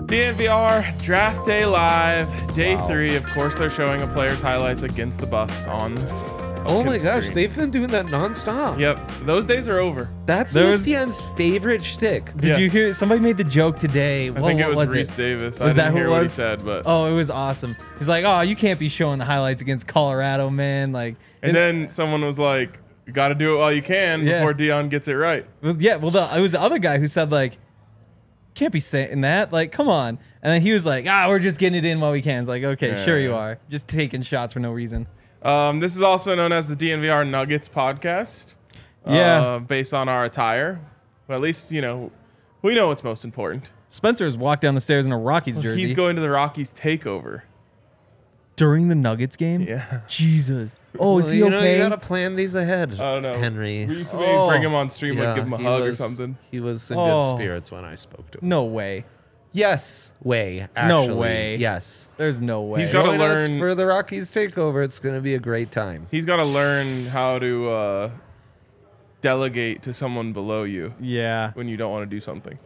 DNVR Draft Day Live, Day 3. Of course, they're showing a player's highlights against the Buffs on this. Oh my gosh, they've been doing that nonstop. Yep, those days are over. That's ESPN's favorite shtick. Did you hear? Somebody made the joke today. I think it was Reese Davis. I didn't hear what he said, but oh, it was awesome. He's like, "Oh, you can't be showing the highlights against Colorado, man!" Like, and then someone was like, "You got to do it while you can before Dion gets it right." Well, yeah, well, it was the other guy who said like, "Can't be saying that." Like, come on. And then he was like, "We're just getting it in while we can." It's like, okay, sure you are, just taking shots for no reason. This is also known as the DNVR Nuggets podcast. Based on our attire. Well, at least, we know what's most important. Spencer has walked down the stairs in a Rockies jersey. He's going to the Rockies takeover. During the Nuggets game? Yeah. Jesus. Oh, is he okay? You got to plan these ahead, Henry. We bring him on stream, give him a hug or something. He was in good spirits when I spoke to him. No way. Yes, actually. No way. Yes. There's no way. He's got to learn for the Rockies takeover. It's going to be a great time. He's got to learn how to delegate to someone below you. Yeah. When you don't want to do something.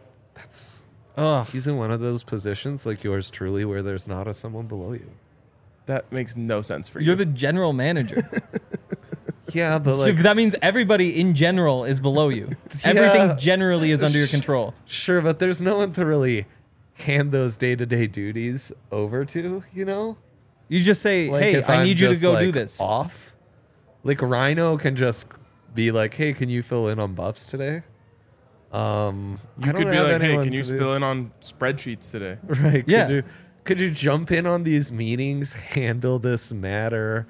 He's in one of those positions like yours truly where there's not someone below you. That makes no sense for you. You're the general manager. Yeah, but so that means everybody in general is below you. Everything generally is under your control. Sure, but there's no one to really hand those day-to-day duties over to, You just say, hey, I need you to go do this. Off? Like Rhino can just be like, hey, can you fill in on buffs today? You could be like, hey, can you fill in on spreadsheets today? Right. Yeah. Could you jump in on these meetings, handle this matter?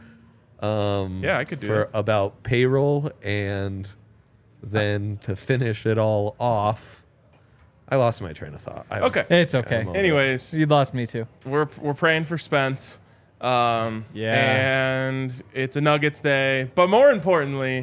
I could do it. About payroll, and then to finish it all off. I lost my train of thought. Okay. It's okay. Anyways. You lost me too. We're praying for Spence. And it's a Nuggets day. But more importantly,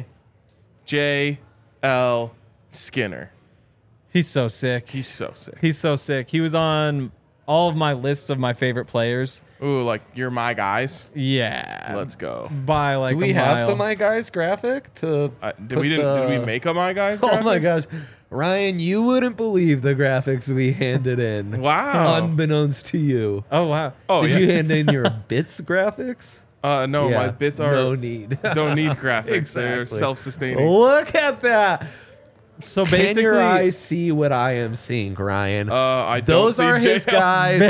J.L. Skinner. He's so sick. He's so sick. He's so sick. He was on all of my lists of my favorite players. Ooh, like you're my guys? Yeah. Let's go. By like Do we have the my guys graphic to did we make a my guys graphic? Oh my gosh. Ryan, you wouldn't believe the graphics we handed in. Wow. Unbeknownst to you. Oh wow. Did you hand in your bits graphics? No, my bits are no need. Don't need graphics. Exactly. They're self-sustaining. Look at that. So basically, can your eyes see what I am seeing, Ryan? I don't Those see are his JL.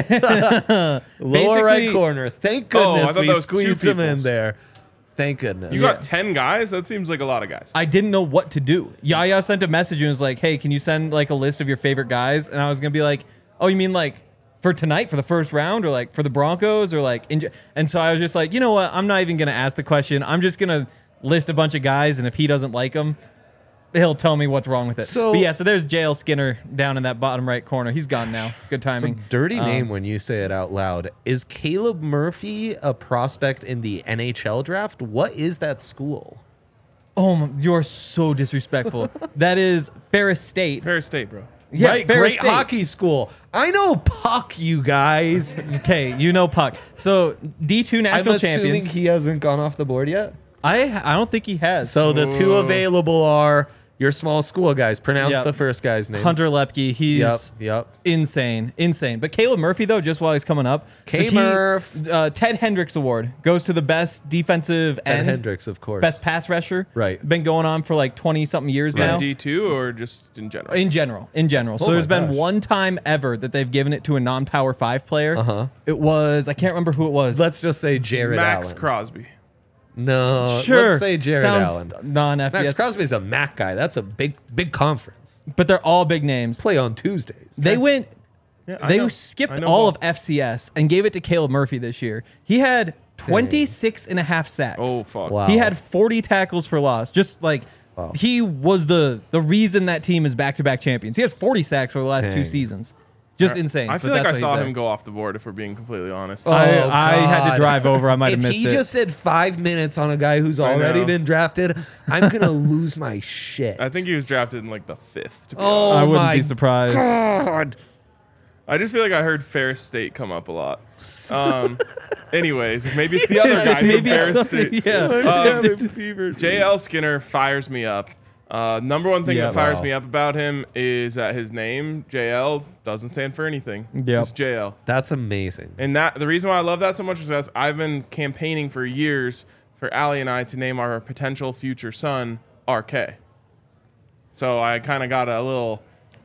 guys. Lower right corner. Thank goodness we squeezed him in there. Thank goodness. You got 10 guys? That seems like a lot of guys. I didn't know what to do. Yaya sent a message and was like, hey, can you send like a list of your favorite guys? And I was going to be like, oh, you mean like for tonight, for the first round, or like for the Broncos, or like... And so I was just like, you know what? I'm not even going to ask the question. I'm just going to list a bunch of guys, and if he doesn't like them, he'll tell me what's wrong with it. So there's J.L. Skinner down in that bottom right corner. He's gone now. Good timing. It's a dirty name when you say it out loud. Is Caleb Murphy a prospect in the NHL draft? What is that school? Oh, you're so disrespectful. That is Ferris State. Ferris State, bro. Yeah, right, Ferris great State. Hockey school. I know Puck, you guys. Okay, you know Puck. So D2 national champions. I'm assuming he hasn't gone off the board yet. I don't think he has. So the two available are your small school guys. Pronounce the first guy's name. Hunter Lepke. He's insane. But Caleb Murphy, though, just while he's coming up. K-Murph. Ted Hendricks Award goes to the best defensive end. Ted Hendricks, of course. Best pass rusher. Right. Been going on for like 20-something years now. D2 or just in general? In general. So there's been one time ever that they've given it to a non-Power 5 player. It was, I can't remember who it was. Let's just say Jared Allen. Max Crosby. No, sure. Let's say Jared Allen. Non-FBS. Max Crosby's a MAC guy. That's a big conference. But they're all big names. Play on Tuesdays. They went. They skipped all of FCS and gave it to Caleb Murphy this year. He had 26 and a half sacks. Oh, fuck. Wow. He had 40 tackles for loss. Just like he was the reason that team is back-to-back champions. He has 40 sacks over the last 2 seasons. Just insane. I feel like I saw him go off the board, if we're being completely honest. I had to drive over. I might have missed it. If he just did 5 minutes on a guy who's already been drafted, I'm going to lose my shit. I think he was drafted in like the 5th, to be honest. I wouldn't be surprised. God. I just feel like I heard Ferris State come up a lot. Anyways, maybe it's the other guy from Ferris State. Yeah. JL Skinner fires me up. Number one thing Yeah. that fires Wow. me up about him is that his name, JL, doesn't stand for anything. Yep. It's JL. That's amazing. And the reason why I love that so much is because I've been campaigning for years for Allie and I to name our potential future son RK. So I kind of got a little,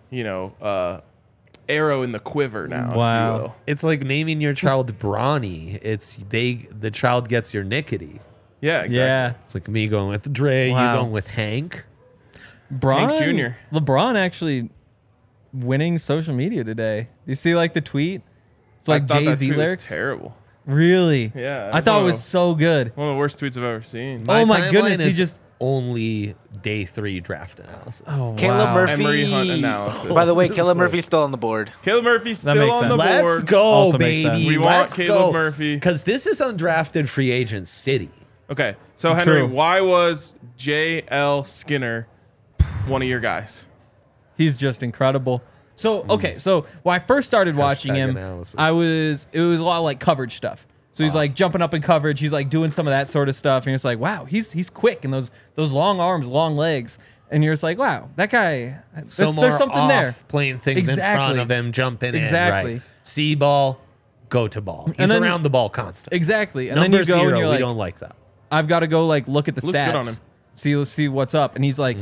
arrow in the quiver now. If Wow. you will. It's like naming your child Brawny. The child gets your nickety. Yeah, exactly. Yeah. It's like me going with Dre, Wow. you going with Hank. Braun, Jr.. LeBron actually winning social media today. Do you see like the tweet? It's like I thought that Jay-Z tweet was lyrics. terrible. Really? Yeah, I thought it one was of- so good. One of the worst tweets I've ever seen. Oh my timeline goodness, he is just- only day 3 draft analysis. Oh, Caleb wow. Murphy. Emery Hunt analysis. By the way, Caleb Murphy's still on the board. Caleb Murphy's That still makes on the sense. board. Let's go, Also makes sense. baby. We want Let's Caleb go. Murphy. Because this is undrafted free agent city. Okay, so Henry, True. why was J.L. Skinner one of your guys? He's just incredible. So okay, so when I first started watching him, analysis. it was a lot of like coverage stuff. So he's like jumping up in coverage. He's like doing some of that sort of stuff, and it's like, wow, he's quick and those long arms, long legs, and you're just like, wow, that guy. There's something off there. Playing things in front Exactly. of him, jumping Exactly. in. Right. See ball, go to ball. He's then- around the ball constantly. Exactly, and Number then you go 0, and you're we like, don't like that. I've got to go like look at the Looks stats. good on him. See what's up, and he's like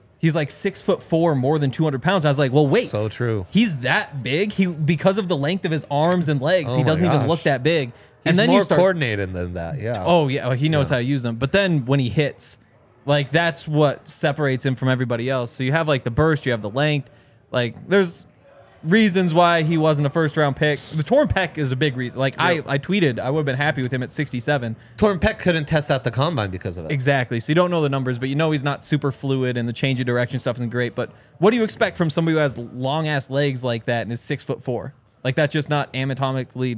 6'4", more than 200 pounds. I was like, well, wait, So true. he's that big. He because of the length of his arms and legs, Oh he my doesn't even gosh. look that big. He's and then more you start. coordinated than that. Yeah. Oh yeah, he knows how to use them. But then when he hits, like that's what separates him from everybody else. So you have like the burst, you have the length. Like there's reasons why he wasn't a first round pick. The torn pec is a big reason. Like I tweeted, I would have been happy with him at 67. Torn Peck couldn't test out the combine because of it. Exactly. So you don't know the numbers, but you know he's not super fluid, and the change of direction stuff isn't great. But what do you expect from somebody who has long ass legs like that and is 6'4"? Like that's just not anatomically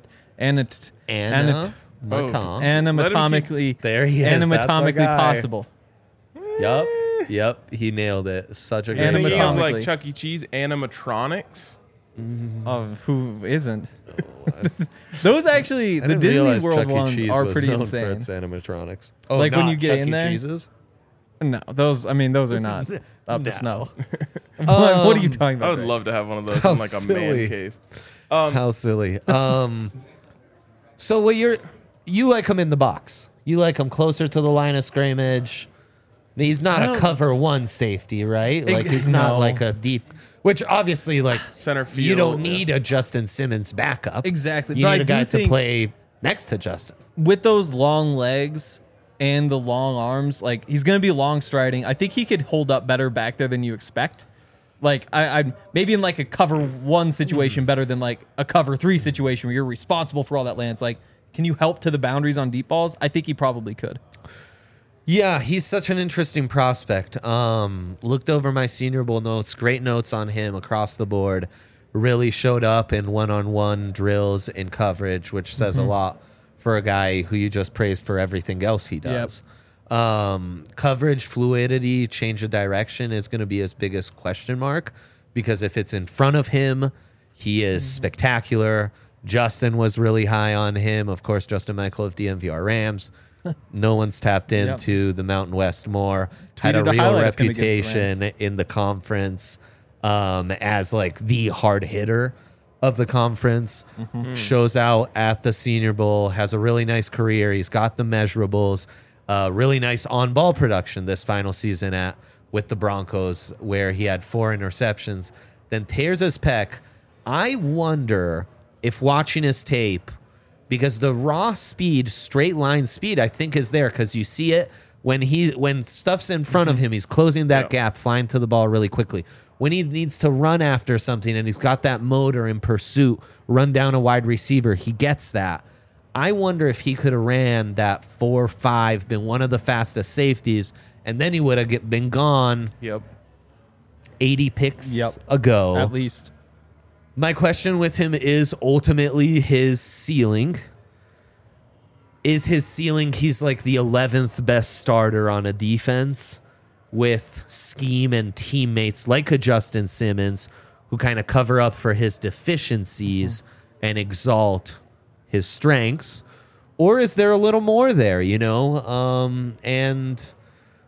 anatomically There he is. That's our anatomically guy. possible. Yep. He nailed it. Such a great Thinking of job. Anatomically. like Chuck E. Cheese animatronics. Of who isn't? Those actually, I the didn't Disney realize World Chuck E. ones Cheese are was pretty known insane. For its animatronics. Oh, Like when not you get Chuck in E. there? Cheese's? No, those are not up to No. snow. What are you talking about? I would Drake? love to have one of those How in like a silly. man cave. How silly. So what you like him in the box? You like him closer to the line of scrimmage? He's not a cover one safety, right? Like he's not No. like a deep. Which obviously, like Center field. you don't need a Justin Simmons backup. Exactly, You but need I a guy do think- to play next to Justin. With those long legs and the long arms, like he's gonna be long striding. I think he could hold up better back there than you expect. Like I maybe in like a cover one situation better than like a cover 3 situation where you're responsible for all that land. It's like, can you help to the boundaries on deep balls? I think he probably could. Yeah, he's such an interesting prospect. Looked over my Senior Bowl notes, great notes on him across the board. Really showed up in one-on-one drills and coverage, which says a lot for a guy who you just praised for everything else he does. Coverage, fluidity, change of direction is going to be his biggest question mark because if it's in front of him, he is spectacular. Justin was really high on him. Of course, Justin Michael of DMVR Rams. No one's tapped into the Mountain West more. Had a Tweeted a real highlight of him against the reputation Rams. in the conference as like the hard hitter of the conference. Shows out at the Senior Bowl. Has a really nice career. He's got the measurables. Really nice on-ball production this final season with the Broncos, where he had 4 interceptions. Then tears his pec. I wonder if watching his tape, because the raw speed, straight line speed, I think is there because you see it when stuff's in front of him, he's closing that gap, flying to the ball really quickly. When he needs to run after something and he's got that motor in pursuit, run down a wide receiver, he gets that. I wonder if he could have ran that 4.5, been one of the fastest safeties, and then he would have been gone Yep. 80 picks Yep. ago. At least. My question with him is ultimately his ceiling. Is his ceiling he's like the 11th best starter on a defense with scheme and teammates like a Justin Simmons who kind of cover up for his deficiencies and exalt his strengths? Or is there a little more there, you know? And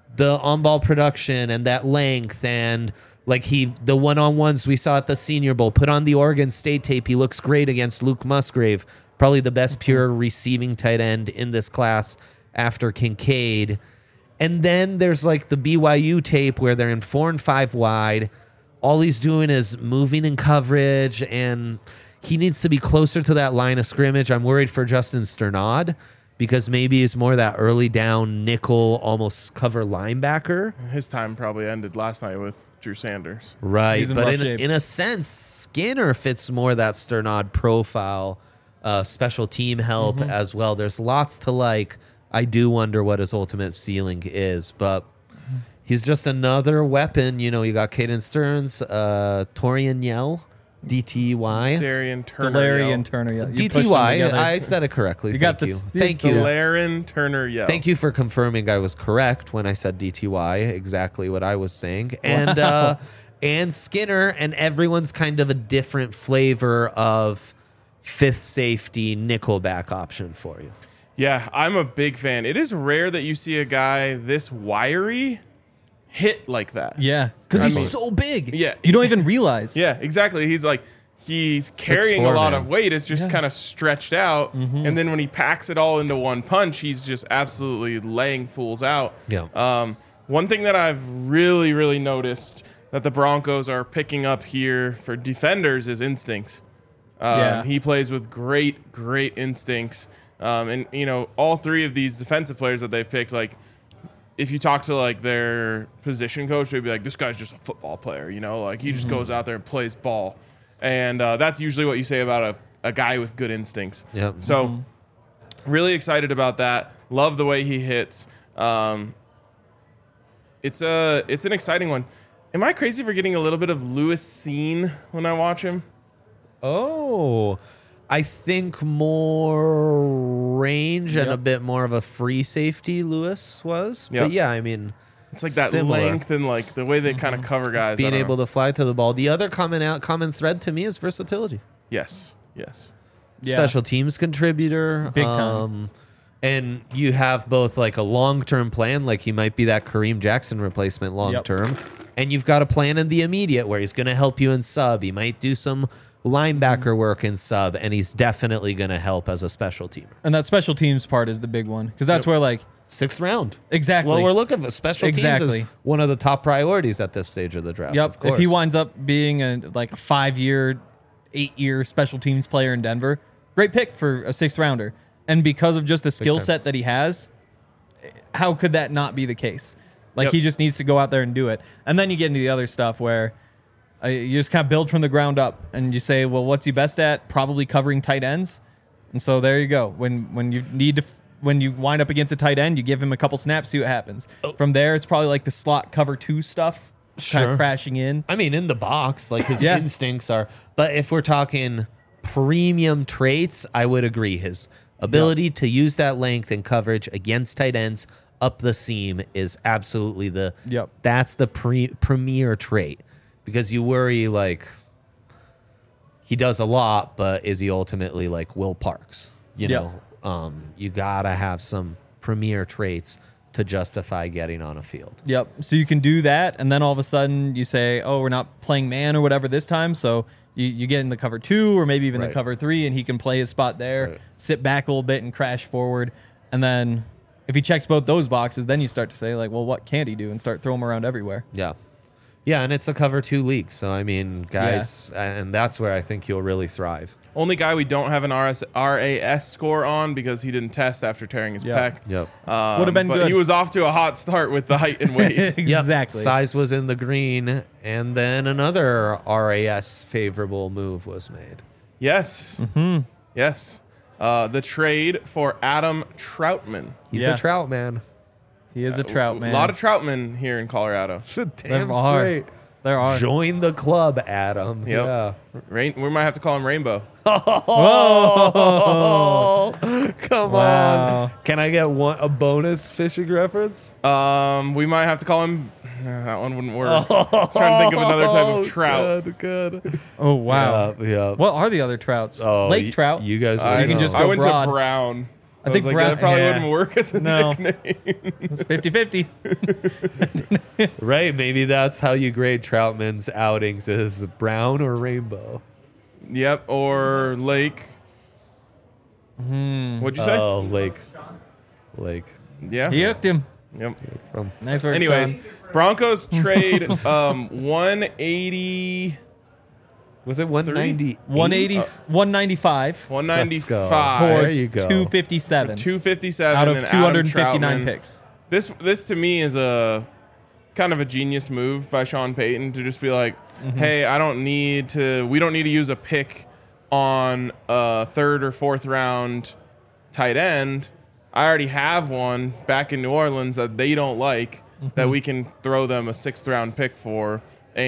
the on-ball production and that length, and like the one-on-ones we saw at the Senior Bowl, put on the Oregon State tape. He looks great against Luke Musgrave, probably the best pure receiving tight end in this class after Kincaid. And then there's like the BYU tape where they're in 4 and 5 wide. All he's doing is moving in coverage, and he needs to be closer to that line of scrimmage. I'm worried for Justin Sternad because maybe he's more that early down nickel, almost cover linebacker. His time probably ended last night with Drew Sanders. Right, He's in but rough shape. in a sense, Skinner fits more that Sternad profile, special team help as well. There's lots to like. I do wonder what his ultimate ceiling is, but he's just another weapon. You know, you got Caden Stearns, Torian Yell, DTY. Darian Turner. Delarian Turner. Yeah. You pushed them DTY, together. I said it correctly. You Thank got you. this- Thank you. Delaren Turner Yell. Thank you for confirming I was correct when I said DTY, exactly what I was saying. And and Skinner, and everyone's kind of a different flavor of fifth safety nickelback option for you. Yeah, I'm a big fan. It is rare that you see a guy this wiry hit like that. Yeah, because I he's mean- so big. Yeah. You don't even realize. Yeah, exactly. He's carrying a 6'4", lot man. of weight. It's just kind of stretched out. And then when he packs it all into one punch, he's just absolutely laying fools out. Yeah. One thing that I've really, really noticed that the Broncos are picking up here for defenders is instincts. Yeah. He plays with great, great instincts. And, you know, all three of these defensive players that they've picked, like, if you talk to, like, their position coach, they'd be like, this guy's just a football player, you know? Like, he just goes out there and plays ball. And that's usually what you say about a guy with good instincts. Yep. So, really excited about that. Love the way he hits. It's an exciting one. Am I crazy for getting a little bit of Lewis Seen when I watch him? Oh, I think more range and Yep. a bit more of a free safety Lewis was. Yep. But yeah, I mean, It's like that Similar. length and like the way they kind of cover guys. being able to fly to the ball. The other common thread to me is versatility. Yes. Yeah. Special teams contributor. Big time. And you have both like a long-term plan, like he might be that Kareem Jackson replacement long-term, and you've got a plan in the immediate where he's going to help you in sub. He might do some linebacker work in sub, and he's definitely going to help as a special teamer. And that special teams part is the big one because that's where like 6th round. exactly. Well, we're looking for special teams Exactly. is one of the top priorities at this stage of the draft. Yep. Of course. If he winds up being a 5-year, 8-year special teams player in Denver, great pick for a 6th rounder. And because of just the skill time. set that he has, how could that not be the case? Like Yep. he just needs to go out there and do it. And then you get into the other stuff where you just kind of build from the ground up and you say, well, what's he best at? Probably covering tight ends. And so there you go. When you need to. When you wind up against a tight end, you give him a couple snaps, see what happens. From there, it's probably like the slot cover 2 stuff, kind Sure. of crashing in. I mean, in the box, like his Yeah. instincts are. But if we're talking premium traits, I would agree. His ability to use that length and coverage against tight ends up the seam is absolutely Yep. that's the premier trait. Because you worry, like, he does a lot, but is he ultimately like Will Parks? You Yep. know, you gotta have some premier traits to justify getting on a field. Yep. So you can do that, and then all of a sudden you say, "Oh, we're not playing man or whatever this time." So you get in the cover 2 or maybe even Right. the cover 3, and he can play his spot there, Right. sit back a little bit, and crash forward. And then if he checks both those boxes, then you start to say, like, "Well, what can't he do?" and start throwing him around everywhere. Yeah. Yeah, and it's a cover 2 league. So, I mean, guys, and that's where I think you'll really thrive. Only guy we don't have an RAS score on because he didn't test after tearing his Yeah. pec. Yep. Would've been but good. he was off to a hot start with the height and weight. Exactly. Size was in the green, and then another RAS favorable move was made. Yes. Mm-hmm. Yes. The trade for Adam Troutman. He's Yes. a trout man. He is a trout man. A lot of Troutmen here in Colorado. There are. There are. Join the club, Adam. Yep. Yeah. We might have to call him Rainbow. Oh, come Wow. on. Can I get a bonus fishing reference? We might have to call him. That one wouldn't work. I was trying to think of another type of trout. Good. Oh wow. Yeah. What are the other trouts? Oh, Lake trout. You guys I You can know. just I go went broad. to Brown. I think was like, Brown- that probably yeah. wouldn't work as a No. nickname. It's 50-50. Right? Maybe that's how you grade Troutman's outings: is brown or rainbow. Yep, or Lake. What'd you say? Oh, Lake. Yeah. He hooked him. Yep. From Nice work, Anyways, Sean. Broncos trade 180, was it 190? 180, 195 195 for There you go. 257 257 out of and Adam 259 Troutman. picks. This to me is a kind of a genius move by Sean Payton to just be like, hey, we don't need to use a pick on a third or fourth round tight end. I already have one back in New Orleans that they don't like that we can throw them a 6th round pick for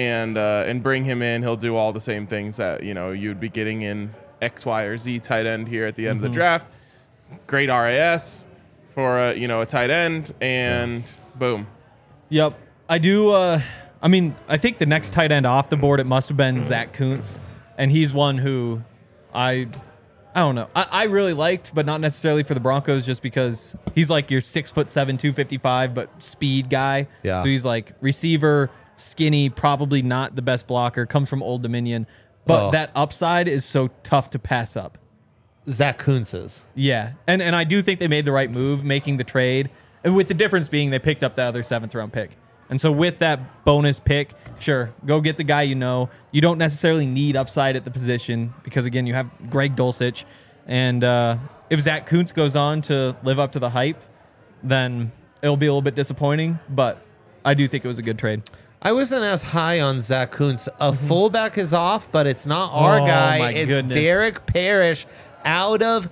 and bring him in. He'll do all the same things that, you'd be getting in X, Y, or Z tight end here at the end of the draft. Great RAS for a tight end, and boom. Yep. I do. I think the next tight end off the board, it must have been Zach Kuntz. And he's one who I don't know. I really liked, but not necessarily for the Broncos, just because he's like your 6'7", 255, but speed guy. Yeah. So he's like receiver, skinny, probably not the best blocker, comes from Old Dominion. But that upside is so tough to pass up. Zach Kuntz's. Yeah. And I do think they made the right move making the trade. And with the difference being they picked up the other 7th round pick. And so with that bonus pick, sure, go get the guy you know. You don't necessarily need upside at the position because, again, you have Greg Dulcich. And if Zach Kuntz goes on to live up to the hype, then it'll be a little bit disappointing. But I do think it was a good trade. I wasn't as high on Zach Kuntz. A fullback is off, but it's not our Oh, guy. my It's goodness. Derek Parrish out of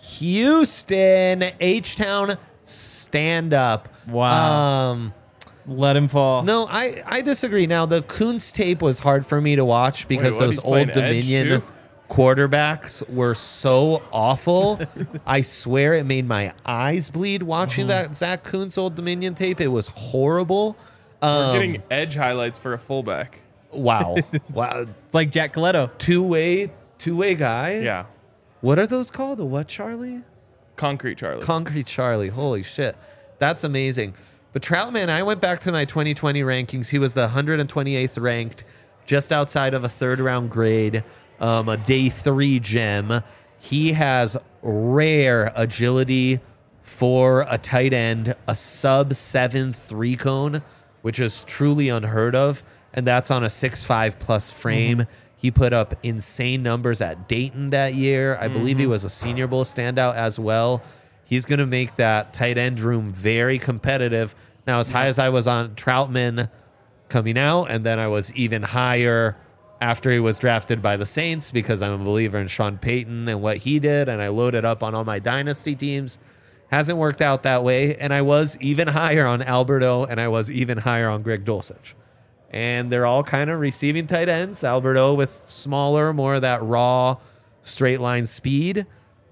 Houston. H-Town stand-up. Wow. Let him fall. No, I disagree. Now, the Kuntz tape was hard for me to watch because Wait, what? those He's playing Old edge, Dominion too? quarterbacks were so awful. I swear it made my eyes bleed watching that Zach Kuntz Old Dominion tape. It was horrible. We're getting edge highlights for a fullback. Wow. Wow. It's like Jack Coletto. Two-way guy? Yeah. What are those called? A what, Charlie? Concrete Charlie. Concrete Charlie. Holy shit. That's amazing. But Troutman, I went back to my 2020 rankings. He was the 128th ranked, just outside of a 3rd round grade, a day 3 gem. He has rare agility for a tight end, a sub 7 3-cone, which is truly unheard of. And that's on a 6'5 plus frame. He put up insane numbers at Dayton that year. I believe he was a Senior Bowl standout as well. He's going to make that tight end room very competitive. Now, as high as I was on Troutman coming out, and then I was even higher after he was drafted by the Saints because I'm a believer in Sean Payton and what he did, and I loaded up on all my dynasty teams. Hasn't worked out that way, and I was even higher on Alberto, and I was even higher on Greg Dulcich. And they're all kind of receiving tight ends. Alberto with smaller, more of that raw, straight line speed.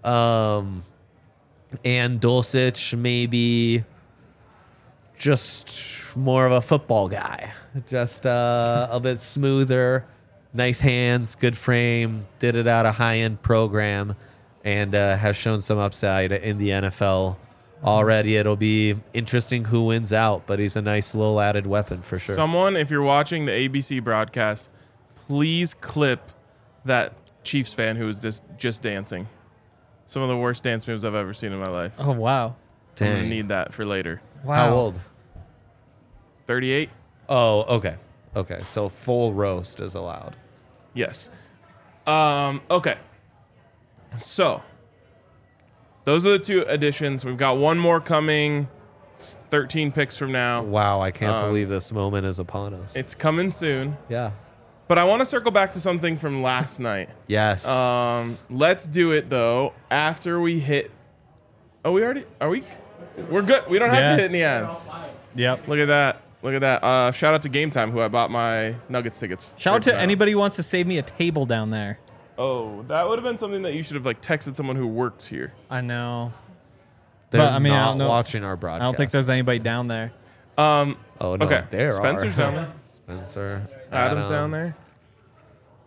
And Dulcich maybe just more of a football guy. Just a bit smoother, nice hands, good frame, did it at a high-end program, and has shown some upside in the NFL already. It'll be interesting who wins out, but he's a nice little added weapon for sure. Someone, if you're watching the ABC broadcast, please clip that Chiefs fan who was just dancing. Some of the worst dance moves I've ever seen in my life. Oh, wow. I'm going to Dang. need that for later. How old? 38? Oh, okay. Okay, so full roast is allowed. Yes. Okay. So, those are the 2 additions. We've got one more coming 13 picks from now. Wow, I can't believe this moment is upon us. It's coming soon. Yeah. But I want to circle back to something from last night. Yes. Let's do it, though, after we hit... Oh, we already... Are we... We're good. We don't have to Yeah. hit any ads. Yep. Look at that. Look at that. Shout out to Game Time, who I bought my Nuggets tickets. Shout out for to anybody who wants to save me a table down there. Oh, that would have been something that you should have texted someone who works here. I know. They're but, I mean, I not don't know. watching our broadcast. I don't think there's anybody down there. Oh, no, Okay, there Spencer's are. down there. Spencer. Adam's Adam. down there.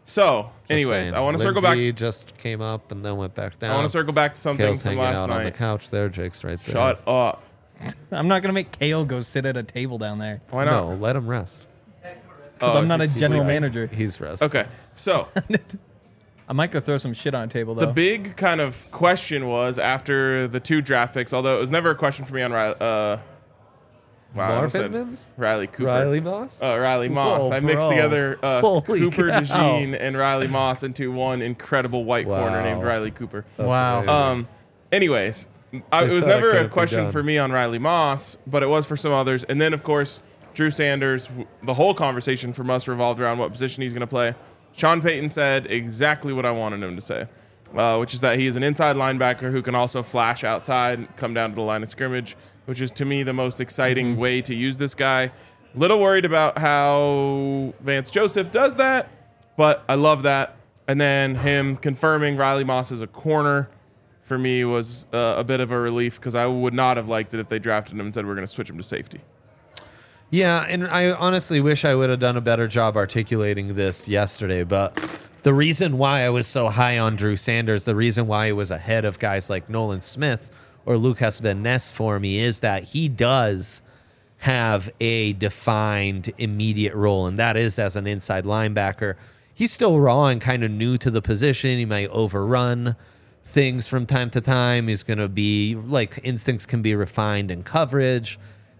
So, Just anyways, saying. I want to circle back. Lindsay just came up and then went back down. I want to circle back to something Kale's from hanging last out on the night. couch there. Jake's right there. Shut up. I'm not gonna make Kale go sit at a table down there Why not? No, let him rest. because Oh, I'm not a he's general sleeping. manager. He's resting. Okay, so I might go throw some shit on a table though. the big kind of question was after the 2 draft picks, although it was never a question for me on Riley. Wow, I almost Marvin said Mims? Riley Cooper. Riley Moss? Riley Moss. Whoa, I mixed bro. together Holy Cooper cow. DeJean and Riley Moss into one incredible white corner Wow. named Riley Cooper. That's Wow. amazing. Anyways, it was said it never couldn't a be question done. for me on Riley Moss, but it was for some others. And then, of course, Drew Sanders, the whole conversation from us revolved around what position he's going to play. Sean Payton said exactly what I wanted him to say, which is that he is an inside linebacker who can also flash outside and come down to the line of scrimmage, which is, to me, the most exciting way to use this guy. Little worried about how Vance Joseph does that, but I love that. And then him confirming Riley Moss as a corner for me was a bit of a relief because I would not have liked it if they drafted him and said we're going to switch him to safety. Yeah, and I honestly wish I would have done a better job articulating this yesterday, but the reason why I was so high on Drew Sanders, the reason why he was ahead of guys like Nolan Smith or Lucas Van Ness for me is that he does have a defined immediate role, and that is as an inside linebacker. He's still raw and kind of new to the position. He might overrun things from time to time. He's going to be like instincts can be refined in coverage,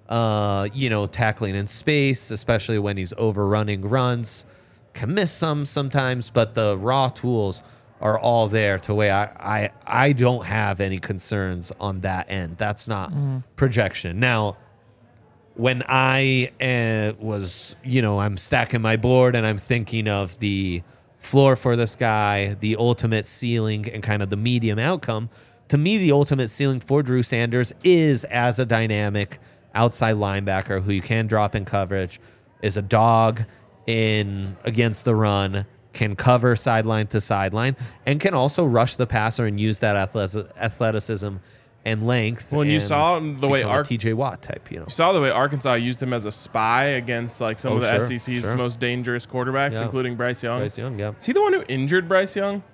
tackling in space, especially when he's overrunning runs. Can miss some sometimes, but the raw tools are all there to where I don't have any concerns on that end. That's not projection. Now, when I was, I'm stacking my board and I'm thinking of the floor for this guy, the ultimate ceiling, and kind of the medium outcome, to me, the ultimate ceiling for Drew Sanders is as a dynamic outside linebacker who you can drop in coverage, is a dog in against the run, can cover sideline to sideline, and can also rush the passer and use that athleticism and length. Well, and you and saw the way become a TJ Watt type, You saw the way Arkansas used him as a spy against like some Oh, of the sure, SEC's sure. most dangerous quarterbacks, Yeah. including Bryce Young. Bryce Young, yeah. Is he the one who injured Bryce Young?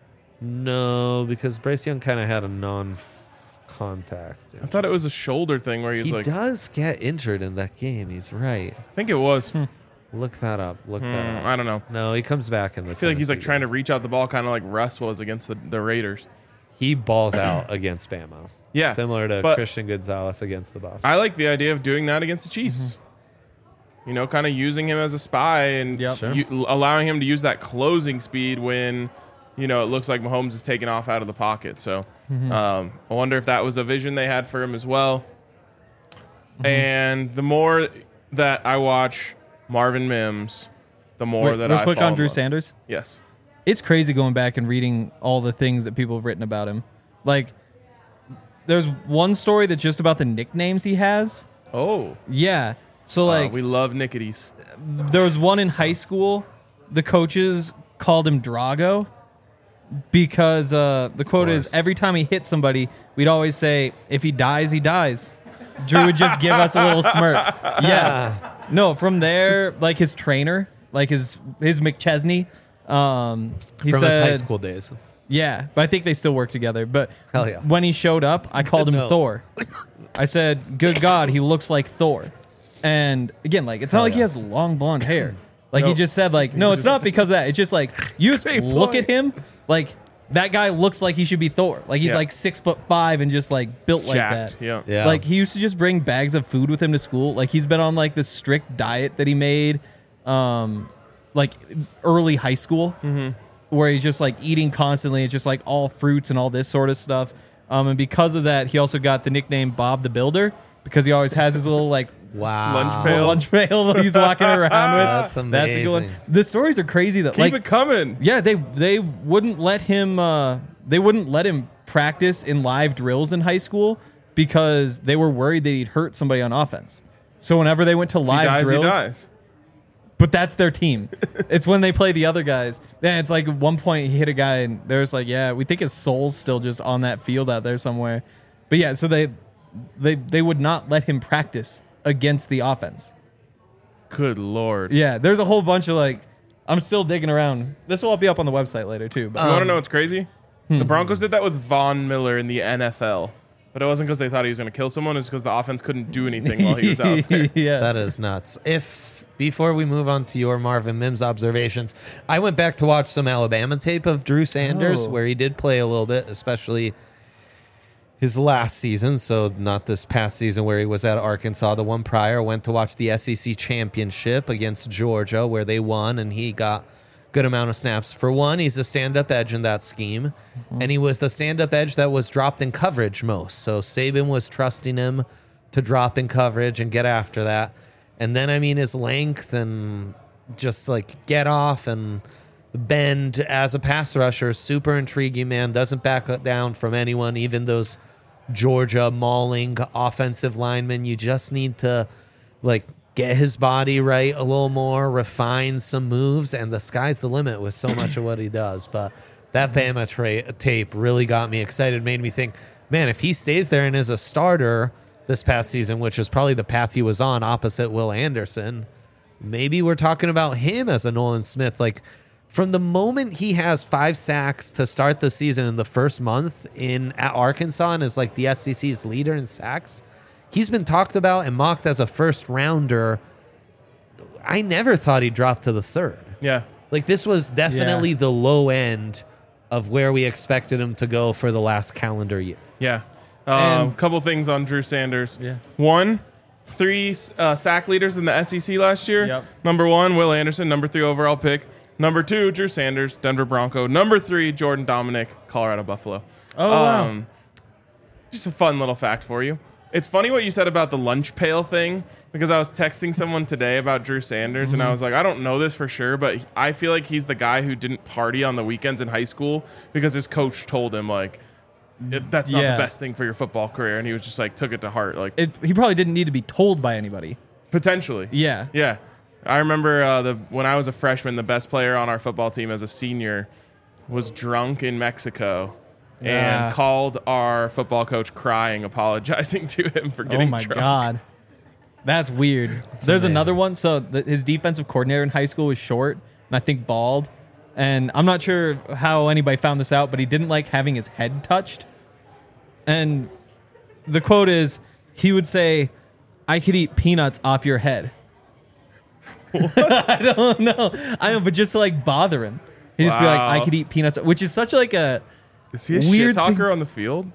No, because Bryce Young kind of had a non-contact. I thought it was a shoulder thing where he was He like, does get injured in that game. He's right. I think it was. Look that up. Look that up. I don't know. No, he comes back in the. I feel like he's like trying to reach out the ball, kind of like Russ was against the Raiders. He balls out against Bama. Yeah, similar to but Christian Gonzalez against the Buffs. I like the idea of doing that against the Chiefs. Kind of using him as a spy and Yep. Sure. allowing him to use that closing speed when, it looks like Mahomes is taking off out of the pocket. So I wonder if that was a vision they had for him as well. And the more that I watch Marvin Mims, the more that real I quick fall on in Drew love. Sanders. Yes. It's crazy going back and reading all the things that people have written about him. Like, there's one story that's just about the nicknames he has. Oh, Yeah. So like, we love Nickities. there was one in high school. The coaches called him Drago because the quote is, course. every time he hit somebody, we'd always say, if he dies, he dies. Drew would just give us a little smirk. Yeah. No, from there, like his trainer, like his McChesney, he From said, his high school days. yeah, but I think they still work together. But Hell yeah. when he showed up, I called him No. Thor. I said, good God, he looks like Thor. And again, like, it's not like he yeah. has long blonde hair. Like, No. he just said, like, no, it's not because of that. It's just like, you just Great look point. at him, like, that guy looks like he should be Thor. Like, he's Yeah. like 6'5" and just like built like Jacked. that. Yeah. Yeah. Like, he used to just bring bags of food with him to school. Like, he's been on like this strict diet that he made, like early high school, where he's just like eating constantly. It's just like all fruits and all this sort of stuff. And because of that, he also got the nickname Bob the Builder because he always has his little like Wow. Lunch pail. that he's walking around with. That's That's a good one. amazing. The stories are crazy though. Keep Like, it coming. yeah, they wouldn't let him practice in live drills in high school because they were worried that he'd hurt somebody on offense. So whenever they went to If he live dies, drills, he dies. but that's their team. It's when they play the other guys. Yeah, it's like at one point he hit a guy and there's like, yeah, we think his soul's still just on that field out there somewhere. But yeah, so they would not let him practice against the offense. Good Lord. Yeah, there's a whole bunch of like I'm still digging around. This will all be up on the website later too. But You want to know what's crazy? The Broncos did that with Von Miller in the NFL. But it wasn't because they thought he was going to kill someone. It's because the offense couldn't do anything while he was out there. yeah. That is nuts. Before we move on to your Marvin Mims observations, I went back to watch some Alabama tape of Drew Sanders, Oh. where he did play a little bit, especially his last season. So not this past season where he was at Arkansas. The one prior, went to watch the SEC championship against Georgia, where they won, and he got good amount of snaps. For one, he's a stand-up edge in that scheme, and he was the stand-up edge that was dropped in coverage most. So Saban was trusting him to drop in coverage and get after that. And then, I mean, his length and just like get off and bend as a pass rusher, super intriguing, man. Doesn't back down from anyone, even those Georgia mauling offensive linemen. You just need to like get his body right a little more, refine some moves, and the sky's the limit with so much of what he does. But that Bama tape really got me excited, made me think, man, if he stays there and is a starter this past season, which is probably the path he was on opposite Will Anderson, maybe we're talking about him as a Nolan Smith. Like, from the moment he has 5 sacks to start the season in the first month at Arkansas and is like the SEC's leader in sacks, he's been talked about and mocked as a first rounder. I never thought he'd drop to the 3rd. Yeah. Like, this was definitely the low end of where we expected him to go for the last calendar year. Yeah. And- Couple things on Drew Sanders. Yeah. 1, 3 sack leaders in the SEC last year. Yep. Number 1, Will Anderson, number 3 overall pick. Number 2, Drew Sanders, Denver Bronco. Number 3, Jordan Dominic, Colorado Buffalo. Oh, wow. Just a fun little fact for you. It's funny what you said about the lunch pail thing, because I was texting someone today about Drew Sanders, and I was like, I don't know this for sure, but I feel like he's the guy who didn't party on the weekends in high school because his coach told him, like, that's not Yeah. the best thing for your football career, and he was just like, took it to heart. Like, He probably didn't need to be told by anybody. potentially. Yeah. Yeah. I remember when I was a freshman, the best player on our football team as a senior was drunk in Mexico Yeah. and called our football coach crying, apologizing to him for getting Oh my drunk. God. That's weird. There's amazing. another one. So his defensive coordinator in high school was short and I think bald. And I'm not sure how anybody found this out, but he didn't like having his head touched. And the quote is, he would say, "I could eat peanuts off your head." I don't know. I know, but just to like bother him. He'd just be like, Wow. "I could eat peanuts," which is such like a Is he a Weird shit talker thing- on the field?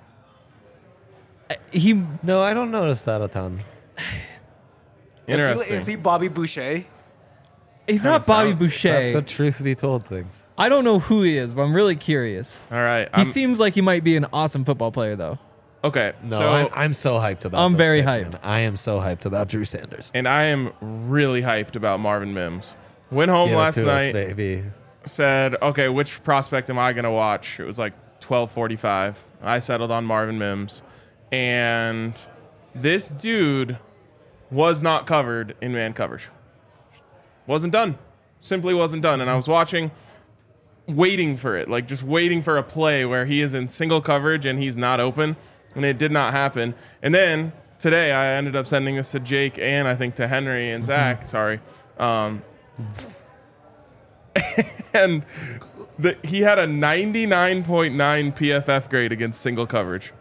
he. No, I don't notice that a ton. Interesting. Is he Bobby Boucher? He's Kinda not Bobby sound- Boucher. That's what truth be told things. I don't know who he is, but I'm really curious. All right. He seems like he might be an awesome football player, though. Okay. No, so I'm so hyped about I'm this very pick, hyped. man. I am so hyped about Drew Sanders. and I am really hyped about Marvin Mims. Went home Give it last to us, night, baby. said, okay, which prospect am I going to watch? It was like 12:45. I settled on Marvin Mims. And this dude was not covered in man coverage. Wasn't done. Simply wasn't done. And I was watching, waiting for it, like just waiting for a play where he is in single coverage and he's not open. And it did not happen. And then today I ended up sending this to Jake and I think to Henry and Zach. Sorry. And he had a 99.9 PFF grade against single coverage.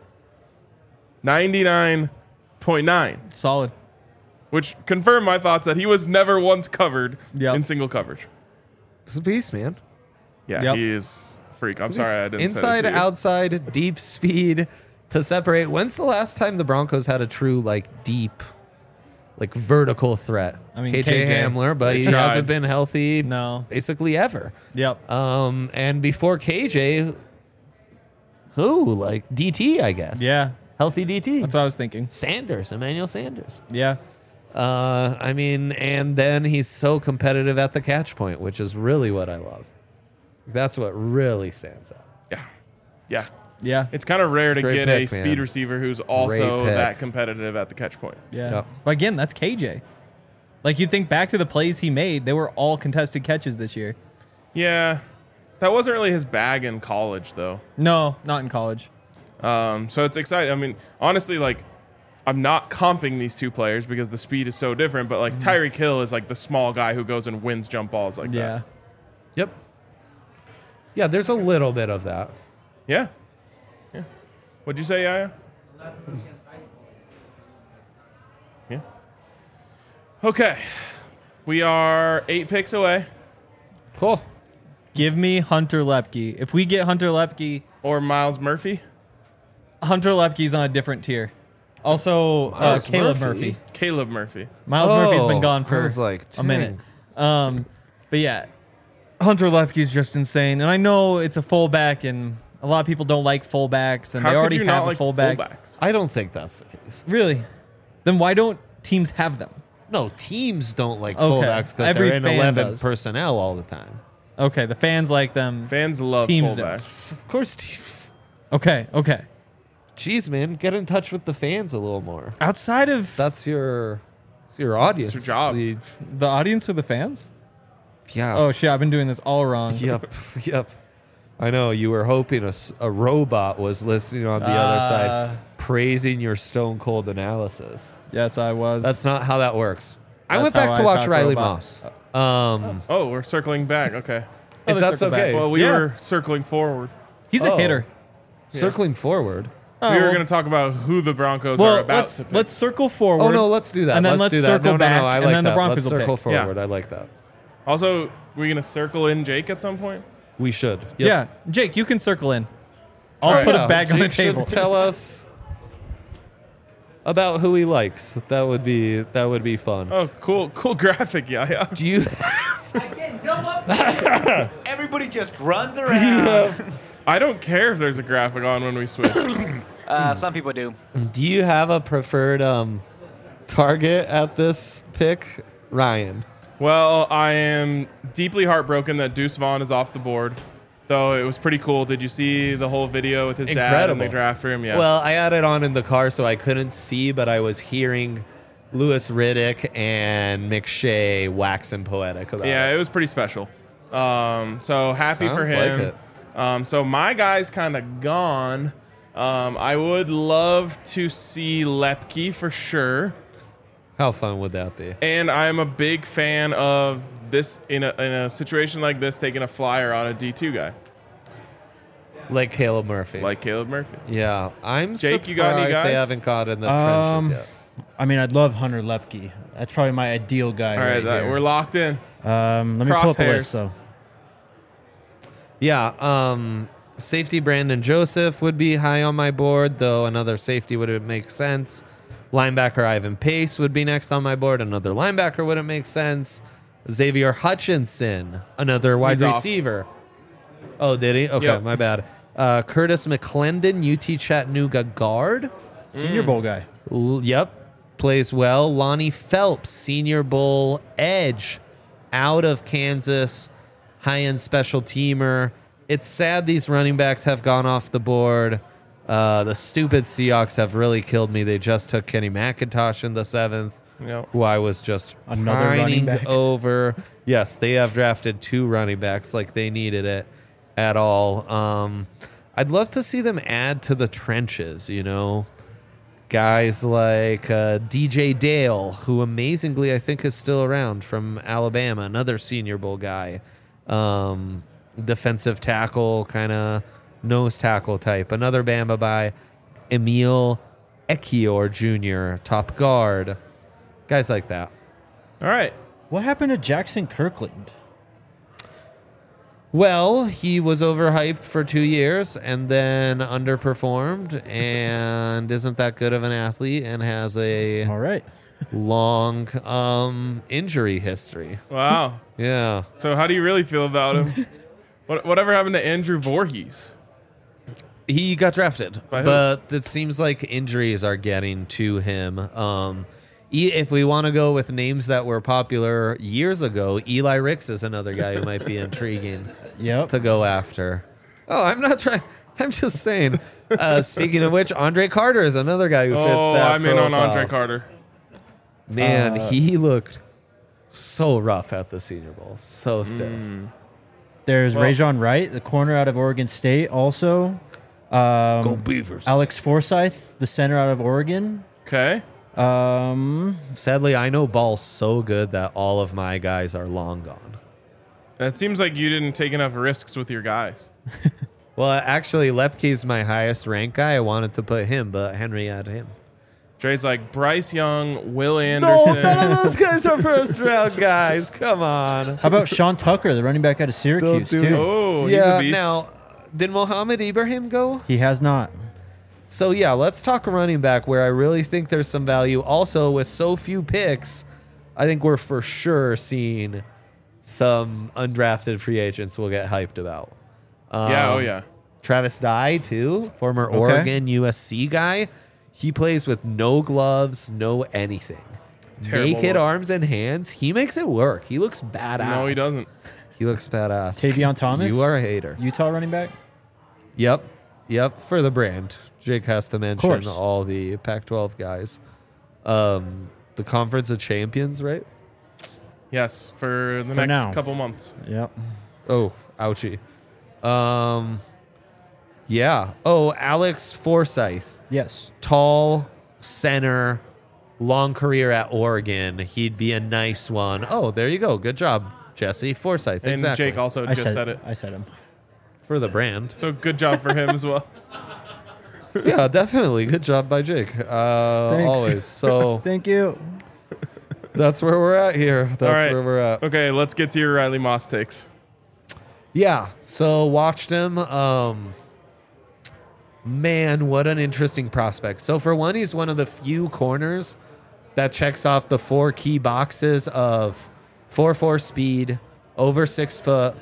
99.9, Solid. which confirmed my thoughts that he was never once covered Yep. in single coverage. It's a beast, man. Yeah, Yep. he is a freak. I'm sorry I didn't Inside, say it to you. outside, deep speed to separate. When's the last time the Broncos had a true, like, deep, like, vertical threat? I mean, KJ KJ. Hamler, but They he tried. hasn't been healthy No. basically ever. Yep. And before KJ, who? Like, DT, I guess. Yeah. Healthy DT. That's what I was thinking. Sanders, Emmanuel Sanders. Yeah. I mean, and then he's so competitive at the catch point, which is really what I love. That's what really stands out. Yeah. Yeah. Yeah. It's kind of rare to great get a pick, speed man. receiver who's also pick. that competitive at the catch point. Yeah. Yep. But again, that's KJ. Like, you think back to the plays he made, they were all contested catches this year. Yeah. That wasn't really his bag in college, though. No, not in college. So it's exciting. I mean, honestly, like, I'm not comping these two players because the speed is so different, but like Tyreek Hill is like the small guy who goes and wins jump balls like Yeah. that. Yep. Yeah, there's a little bit of that. Yeah. Yeah. What'd you say, Yaya? Yeah. Okay. We are 8 picks away. Cool. Give me Hunter Lepke. If we get Hunter Lepke, Or Miles Murphy. Hunter Lepke's on a different tier. Also, Miles Caleb Murphy? Murphy. Caleb Murphy. Miles Murphy's been gone I for was like, a minute. dang. But yeah, Hunter Lepke's just insane. And I know it's a fullback, and a lot of people don't like fullbacks, and How they could already you have not a like fullback. fullbacks? I don't think that's the case. Really? Then why don't teams have them? No, teams don't like Okay. fullbacks because Every they're in fan 11 does. personnel all the time. Okay, the fans like them. Fans love Teams do. fullbacks. Of course. Okay. Jeez, man, get in touch with the fans a little more. Outside of That's your audience. It's your job. the audience or the fans? Yeah. Oh shit, I've been doing this all wrong. Yep. I know you were hoping a robot was listening on the other side, praising your stone cold analysis. Yes, I was. That's not how that works. I That's went back how to I watch talk Riley robot. Moss. Oh, we're circling back. Okay. Oh, If they that's circle back. okay. Well, we Yeah. were circling forward. He's a Oh. hitter. Circling forward. Oh, We were well- going to talk about who the Broncos well, are about. let's circle forward. Oh no, let's do that. And then let's do that. circle No, back, I and like then the that. Broncos Let's will circle pick. forward. Yeah. I like that. Also, we're going to circle in Jake at some point. We should. Yep. Yeah, Jake, you can circle in. I'll Alright. put Yeah, a bag on the Jake should table. Tell us about who he likes. That would be fun. Oh, cool graphic, yeah. Do you Everybody just runs around. I don't care if there's a graphic on when we switch. Some people do. do you have a preferred target at this pick, Ryan? Well, I am deeply heartbroken that Deuce Vaughn is off the board, though it was pretty cool. Did you see the whole video with his dad and Incredible. they draft for him? Yeah. Well, I had it on in the car so I couldn't see, but I was hearing Louis Riddick and McShay waxing poetic about yeah, it. it was pretty special. So happy for Sounds him. like it. So my guy's kind of gone. I would love to see Lepke for sure. How fun would that be? And I'm a big fan of this in a situation like this, taking a flyer on a D2 guy Like Caleb Murphy. like Caleb Murphy. Yeah, I'm Jake, surprised you got any they guys? haven't got in the trenches yet. I mean, I'd love Hunter Lepke. That's probably my ideal guy. All right, there. we're locked in. Let me pull up a Crosshairs. list though. Yeah, safety Brandon Joseph would be high on my board, though another safety would make sense. Linebacker Ivan Pace would be next on my board. Another linebacker wouldn't make sense. Xavier Hutchinson, another wide He's off. receiver. Oh, did he? Okay, Yep. my bad. Curtis McClendon, UT Chattanooga guard. Senior Bowl guy. Yep, plays well. Lonnie Phelps, Senior Bowl edge, out of Kansas, high-end special teamer. It's sad these running backs have gone off the board. The stupid Seahawks have really killed me. They just took Kenny McIntosh in the 7th, Yep. who I was just Another running pining back. over. Yes, they have drafted 2 running backs like they needed it at all. I'd love to see them add to the trenches, you know. Guys like DJ Dale, who amazingly I think is still around from Alabama, another Senior Bowl guy. Defensive tackle, kind of nose tackle type. Another Bama by Emil Ekior Jr., top guard. Guys like that. All right. What happened to Jackson Kirkland? Well, he was overhyped for 2 years and then underperformed and isn't that good of an athlete and has a All right. long injury history. Wow. Yeah. So how do you really feel about him? Whatever happened to Andrew Voorhees? He got drafted, By who? but it seems like injuries are getting to him. If we want to go with names that were popular years ago, Eli Ricks is another guy who might be intriguing Yep. to go after. Oh, I'm not trying. I'm just saying. Speaking of which, Andre Carter is another guy who fits Oh, that I'm in on profile. Andre Carter. Man, he looked so rough at the Senior Bowl. So stiff. There's Well- Rajon Wright, the corner out of Oregon State, also. Go Beavers. Alex Forsyth, the center out of Oregon. Okay. Sadly, I know ball so good that all of my guys are long gone. That seems like you didn't take enough risks with your guys. Well, actually, Lepke's my highest rank guy. I wanted to put him, but Henry had him. Dre's like Bryce Young, Will Anderson. No, none of those guys are first round guys. Come on. How about Sean Tucker, the running back out of Syracuse, do too? Oh, he's a Yeah, beast. now, did Mohamed Ibrahim go? He has not. So, yeah, let's talk running back where I really think there's some value. Also, with so few picks, I think we're for sure seeing some undrafted free agents we'll get hyped about. Yeah, oh yeah. Travis Dye, too, former Oregon USC guy. He plays with no gloves, no anything. Terrible Naked look. arms and hands. He makes it work. He looks badass. No, he doesn't. He looks badass. Tavion Thomas? You are a hater. Utah running back? Yep. For the brand. Jake has to mention course. all the Pac-12 guys. The Conference of Champions, right? Yes, for the For next now. couple months. Yep. Oh, ouchie. Yeah. Oh, Alex Forsyth. Yes. Tall center, long career at Oregon. He'd be a nice one. Oh, there you go. Good job, Jesse. Forsyth. And Exactly. Jake also I just said it. I said him. For the brand. So good job for him as well. Yeah, definitely. Good job by Jake. Always. So Thank you. that's where we're at here. That's right. where we're at. Okay, let's get to your Riley Moss takes. Yeah. So watched him. Man, what an interesting prospect. So for one, he's one of the few corners that checks off the 4 key boxes of 4.4 speed, over 6 foot,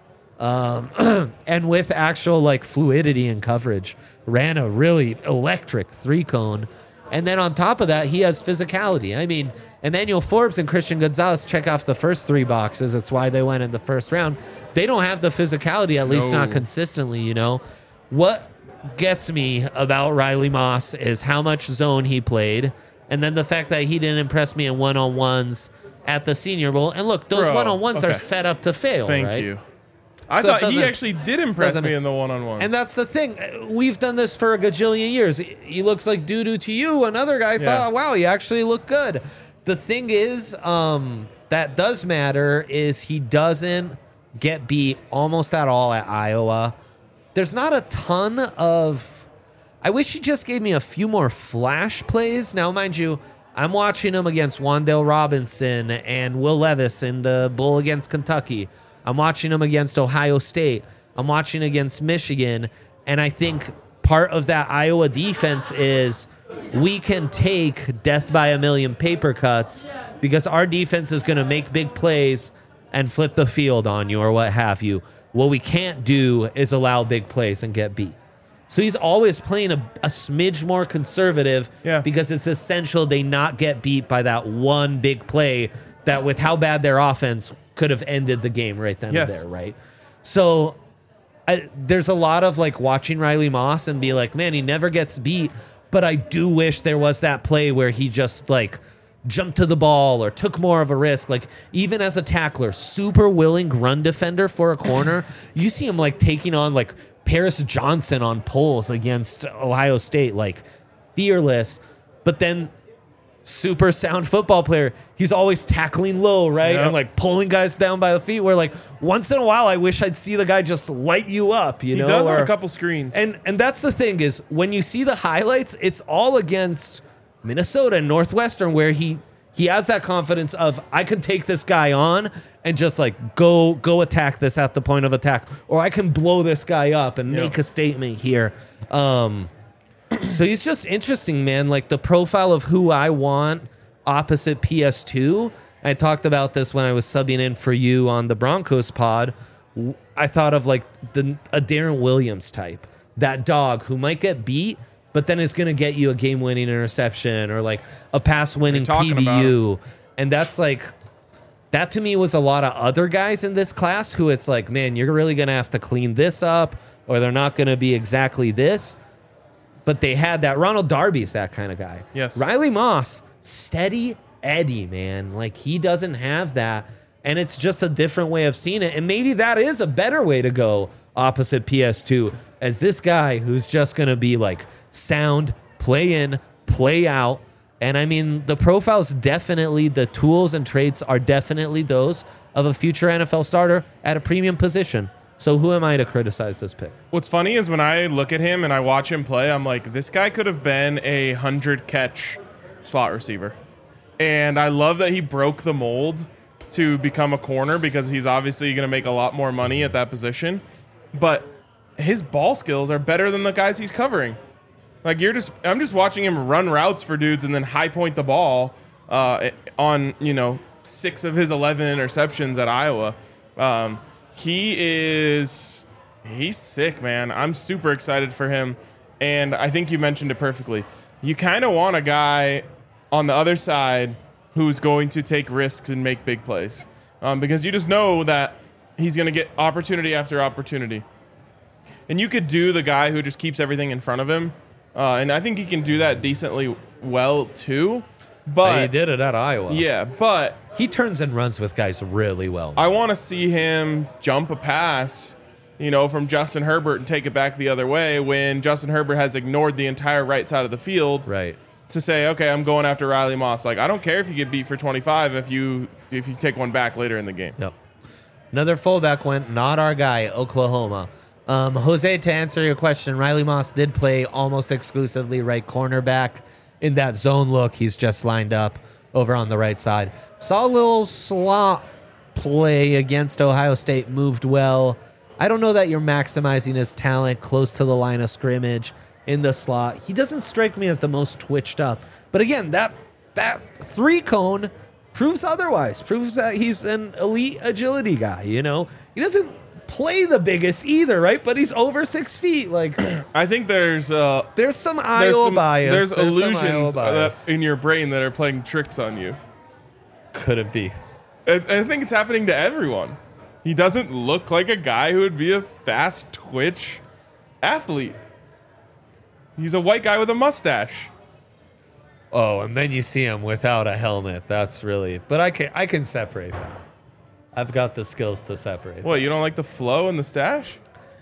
and with actual like fluidity and coverage. Ran a really electric 3-cone. And then on top of that, he has physicality. I mean, Emmanuel Forbes and Christian Gonzalez check off the first 3 boxes. That's why they went in the first round. They don't have the physicality, at least not No. consistently, you know. What gets me about Riley Moss is how much zone he played, and then the fact that he didn't impress me in one-on-ones at the Senior Bowl. And look, those Bro, one-on-ones are okay. set up to fail, Thank right? you. I So it thought he doesn't- actually did impress doesn't- me in the one-on-one. And that's the thing. We've done this for a gajillion years. He looks like doo-doo to you. Another guy Yeah. thought, wow, he actually looked good. The thing is, that does matter is he doesn't get beat almost at all at Iowa. There's not a ton of... I wish he just gave me a few more flash plays. Now, mind you, I'm watching him against Wandale Robinson and Will Levis in the bowl against Kentucky. I'm watching him against Ohio State. I'm watching against Michigan. And I think part of that Iowa defense is we can take death by a million paper cuts because our defense is going to make big plays and flip the field on you or what have you. What we can't do is allow big plays and get beat. So he's always playing a smidge more conservative because it's essential they not get beat by that one big play that with how bad their offense could have ended the game right then and there, right? So there's a lot of like watching Riley Moss and be like, man, he never gets beat, but I do wish there was that play where he just like jumped to the ball or took more of a risk. Like even as a tackler, super willing run defender for a corner, you see him like taking on like Paris Johnson on pulls against Ohio State, like fearless, but then super sound football player. He's always tackling low, right? Yep. And like pulling guys down by the feet where like once in a while I wish I'd see the guy just light you up, you he know? does on Or- a couple screens. and that's the thing is when you see the highlights, it's all against Minnesota and Northwestern where he has that confidence of I can take this guy on and just like go attack this at the point of attack, or I can blow this guy up and make a statement here. So he's just interesting, man. Like the profile of who I want opposite PS2. I talked about this when I was subbing in for you on the Broncos pod. I thought of like a Darren Williams type, that dog who might get beat, but then is going to get you a game-winning interception or like a pass-winning You're talking about PBU. And that's like, that to me was a lot of other guys in this class who it's like, man, you're really going to have to clean this up or they're not going to be exactly this. But they had that. Ronald Darby's that kind of guy. Yes. Riley Moss, steady Eddie, man. Like he doesn't have that. And it's just a different way of seeing it. And maybe that is a better way to go opposite PS2 as this guy who's just going to be like sound, play in, play out. And I mean, the profile's definitely, the tools and traits are definitely those of a future NFL starter at a premium position. So who am I to criticize this pick? What's funny is when I look at him and I watch him play, I'm like, this guy could have been a 100-catch slot receiver. And I love that he broke the mold to become a corner because he's obviously going to make a lot more money at that position. But his ball skills are better than the guys he's covering. Like I'm just watching him run routes for dudes and then high point the ball on 6 of his 11 interceptions at Iowa. He's sick, man. I'm super excited for him. And I think you mentioned it perfectly. You kind of want a guy on the other side who's going to take risks and make big plays. Because you just know that he's going to get opportunity after opportunity. And you could do the guy who just keeps everything in front of him. And I think he can do that decently well, too. But he did it at Iowa. Yeah, but He turns and runs with guys really well. I want to see him jump a pass, from Justin Herbert and take it back the other way when Justin Herbert has ignored the entire right side of the field. Right. To say, okay, I'm going after Riley Moss. Like, I don't care if you get beat for 25 if you take one back later in the game. Yep. Another fullback went, not our guy, Oklahoma. Jose, to answer your question, Riley Moss did play almost exclusively right cornerback. In that zone look, he's just lined up over on the right side. Saw a little slot play against Ohio State, moved well. I don't know that you're maximizing his talent close to the line of scrimmage in the slot. He doesn't strike me as the most twitched up. But again, that 3-cone proves otherwise. Proves that he's an elite agility guy, He doesn't play the biggest either, right? But he's over 6 feet. Like, I think there's some Iowa bias. There's some illusions Iowa bias. in your brain that are playing tricks on you. Could it be? I think it's happening to everyone. He doesn't look like a guy who would be a fast twitch athlete. He's a white guy with a mustache. Oh, and then you see him without a helmet. That's really. But I can separate that. I've got the skills to separate. What, you don't like the flow and the stash?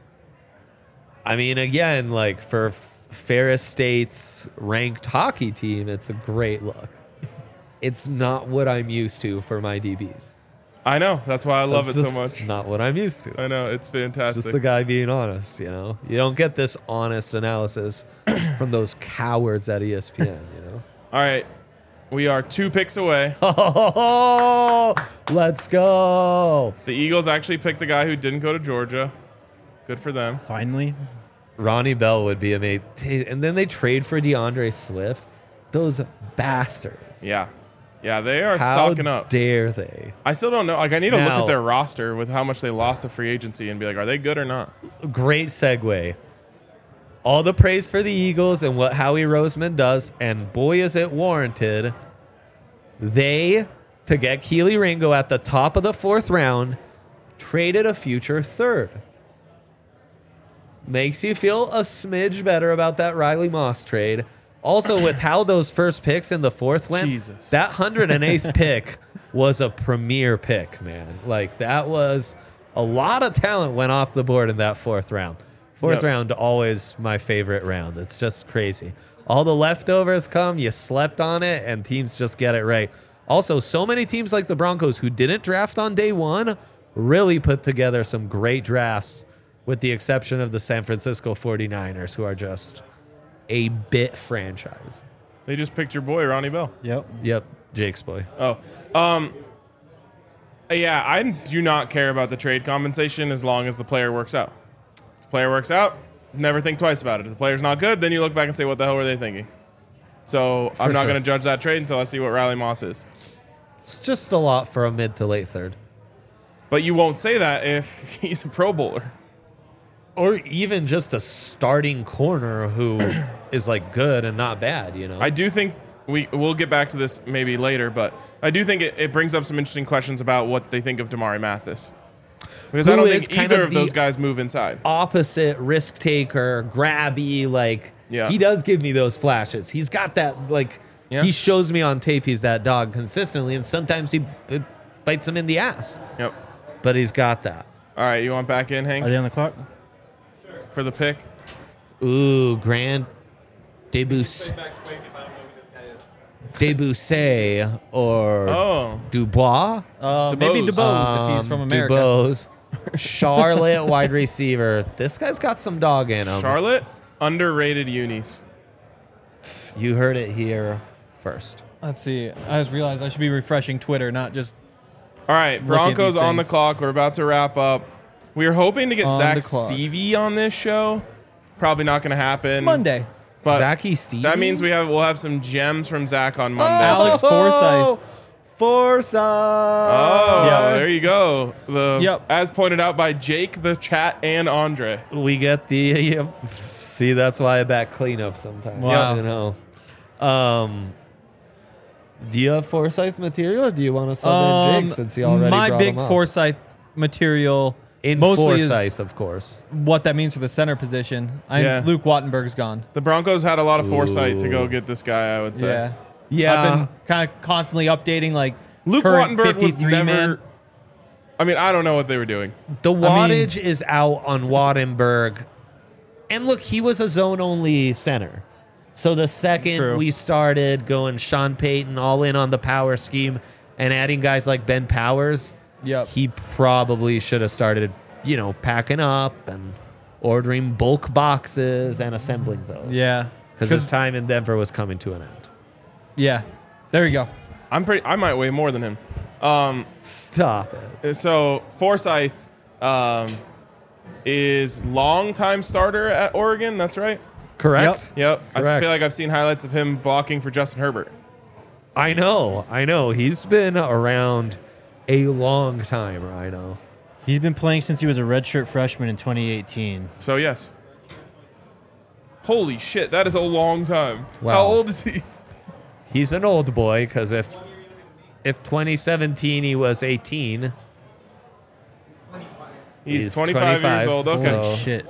I mean, again, like for Ferris State's ranked hockey team, it's a great look. It's not what I'm used to for my DBs. I know. That's why I love it so just much. Not what I'm used to. I know. It's fantastic. Just the guy being honest, You don't get this honest analysis from those cowards at ESPN, All right. We are 2 picks away. Oh, let's go. The Eagles actually picked a guy who didn't go to Georgia. Good for them. Finally. Ronnie Bell would be amazing. And then they trade for DeAndre Swift. Those bastards. Yeah. Yeah, they are How stocking up. dare they? I still don't know. Like, I need to look Now- at their roster with how much they lost to free agency and be like, are they good or not? Great segue. All the praise for the Eagles and what Howie Roseman does, and boy is it warranted. They, to get Keely Ringo at the top of the 4th round, traded a future 3rd. Makes you feel a smidge better about that Riley Moss trade. Also, with how those first picks in the 4th went, Jesus. that 108th pick was a premier pick, man. Like, that was a lot of talent went off the board in that 4th round. Fourth round, always my favorite round. It's just crazy. All the leftovers come, you slept on it, and teams just get it right. Also, so many teams like the Broncos who didn't draft on day 1 really put together some great drafts, with the exception of the San Francisco 49ers, who are just a bit franchise. They just picked your boy, Ronnie Bell. Yep, Jake's boy. Oh. Yeah, I do not care about the trade compensation as long as the player works out. If the player works out, never think twice about it. If the player's not good, then you look back and say, what the hell were they thinking? So I'm not sure. going to judge that trade until I see what Riley Moss is. It's just a lot for a mid to late 3rd. But you won't say that if he's a Pro Bowler. Or even just a starting corner who is like good and not bad, I do think we'll get back to this maybe later, but I do think it brings up some interesting questions about what they think of Damari Mathis. Because I Who don't is think kind either of of those the guys move inside. Opposite risk taker, grabby, like Yeah. he does give me those flashes. He's got that like Yeah. he shows me on tape he's that dog consistently, and sometimes it bites him in the ass. Yep. But he's got that. All right, you want back in, Hank, Are they on the clock? for the pick? Ooh, grand debut. Debussy or Oh, Dubois. Maybe DeBose. DeBose if he's from America. DuBose. Charlotte wide receiver. This guy's got some dog in him. Charlotte, underrated unis. You heard it here first. Let's see. I just realized I should be refreshing Twitter, not just All right, Broncos these on the things. clock. We're about to wrap up. We were hoping to get On Zach the clock. Stevie on this show. Probably not going to happen. Monday. But Zachy Stevie? that means we'll have some gems from Zach on Monday. Alex Forsyth. Forsyth. Oh, Yeah. there you go. Yep. As pointed out by Jake, the chat, and Andre. We get the see. That's why I back cleanup sometimes. Wow. You know. Do you have Forsyth material, or do you want to sub in Jake since he already my brought big him up? Forsyth material in mostly Forsyth, is of course. what that means for the center position. Yeah. Luke Wattenberg's gone. The Broncos had a lot of foresight to go Ooh. get this guy, I would say. Yeah. Yeah. I've been kind of constantly updating like Luke current Wattenberg was 53 never. man. I mean, I don't know what they were doing. The mean- wattage is out on Wattenberg. And look, he was a zone only center. So the second True. we started going Sean Payton all in on the power scheme and adding guys like Ben Powers, Yep. he probably should have started, packing up and ordering bulk boxes and assembling those. Yeah. Because his time in Denver was coming to an end. Yeah. There you go. I might weigh more than him. Stop it. So Forsyth is longtime starter at Oregon. That's right. Correct? Yep. I Correct. feel like I've seen highlights of him blocking for Justin Herbert. I know. He's been around a long time, Rhino. He's been playing since he was a redshirt freshman in 2018. So yes. Holy shit, that is a long time. Wow. How old is he? He's an old boy because if 2017 he was 18, He's 25 years old. Okay. So- Holy shit.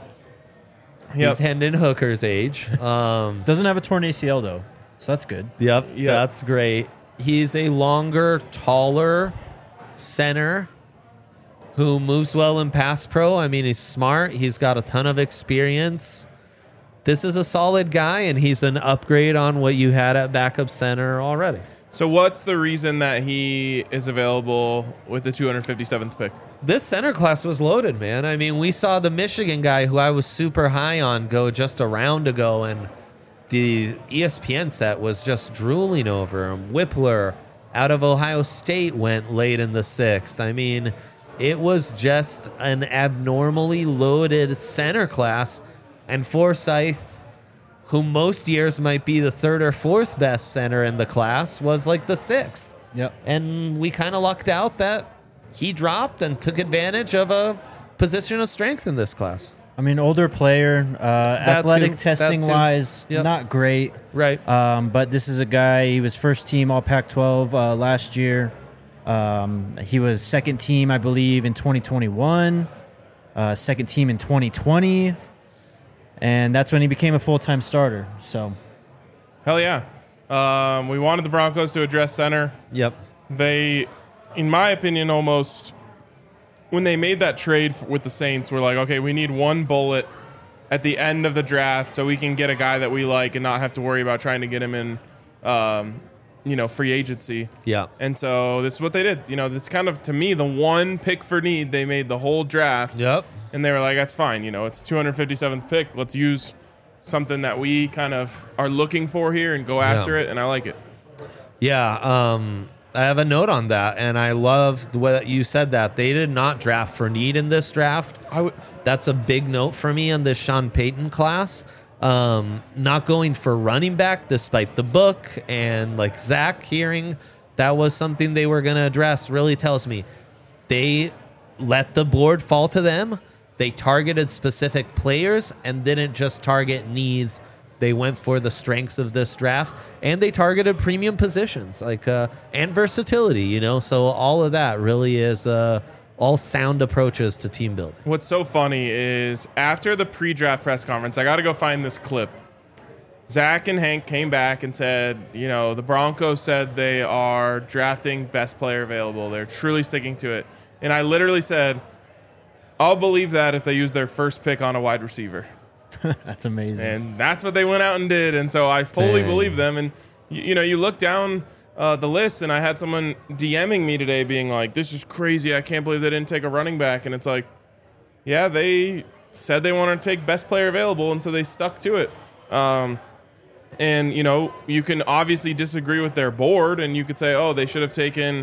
Yep. he's Hendon Hooker's age. Doesn't have a torn ACL though, so that's good. Yep, that's great. He's a longer, taller center who moves well in pass pro. I mean, he's smart. He's got a ton of experience. This is a solid guy, and he's an upgrade on what you had at backup center already. So what's the reason that he is available with the 257th pick? This center class was loaded, man. I mean, we saw the Michigan guy who I was super high on go just a round ago, and the ESPN set was just drooling over him. Whippler out of Ohio State went late in the 6th. I mean, it was just an abnormally loaded center class, and Forsyth, who most years might be the 3rd or 4th best center in the class, was like the 6th. Yep. And we kind of lucked out that he dropped and took advantage of a position of strength in this class. I mean, older player, athletic too. testing That too. wise, Yep. not great. Right. But this is a guy, he was first team All Pac-12 last year. He was second team, I believe, in 2021, second team in 2020. And that's when he became a full-time starter. So, Hell yeah. We wanted the Broncos to address center. Yep. They, in my opinion, almost when they made that trade with the Saints, we're like, okay, we need one bullet at the end of the draft so we can get a guy that we like and not have to worry about trying to get him in, free agency. Yeah. And so this is what they did. This kind of, to me, the one pick for need. They made the whole draft. Yep. And they were like, that's fine. It's 257th pick. Let's use something that we kind of are looking for here and go after it. And I like it. Yeah. I have a note on that, and I love the way that you said that. They did not draft for need in this draft. That's a big note for me on this Sean Payton class. Not going for running back despite the book and like Zach hearing that was something they were going to address really tells me they let the board fall to them. They targeted specific players and didn't just target needs. They went for the strengths of this draft, and they targeted premium positions and versatility, So all of that really is all sound approaches to team building. What's so funny is after the pre-draft press conference, I got to go find this clip. Zach and Hank came back and said, the Broncos said they are drafting best player available. They're truly sticking to it. And I literally said, I'll believe that if they use their first pick on a wide receiver. that's amazing. And that's what they went out and did. And so I fully Dang. believe them. And you look down the list, and I had someone DMing me today being like, "This is crazy. I can't believe they didn't take a running back." And it's like, yeah, they said they wanted to take best player available, and so they stuck to it. And you can obviously disagree with their board, and you could say, "Oh, they should have taken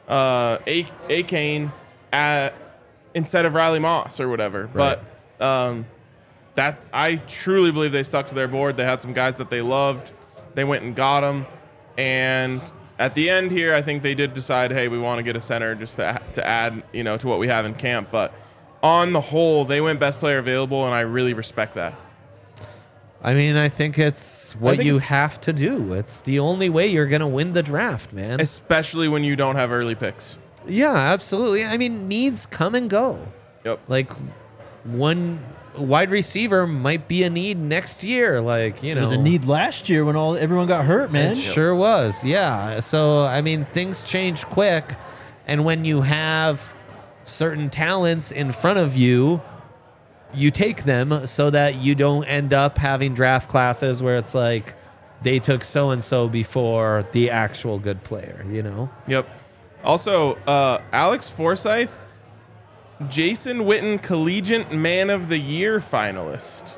Akane instead of Riley Moss or whatever." Right. But that I truly believe they stuck to their board. They had some guys that they loved. They went and got them, and at the end here, I think they did decide, hey, we want to get a center just to add, to what we have in camp. But on the whole, they went best player available, and I really respect that. I mean, I think it's what you have to do. It's the only way you're going to win the draft, man. Especially when you don't have early picks. Yeah, absolutely. I mean, needs come and go. Yep. Like, one wide receiver might be a need next year. Like, It was a need last year when everyone got hurt, man. It sure was. Yeah. So, I mean, things change quick. And when you have certain talents in front of you, you take them so that you don't end up having draft classes where it's like they took so-and-so before the actual good player, Yep. Also, Alex Forsyth, Jason Witten Collegiate Man of the Year finalist.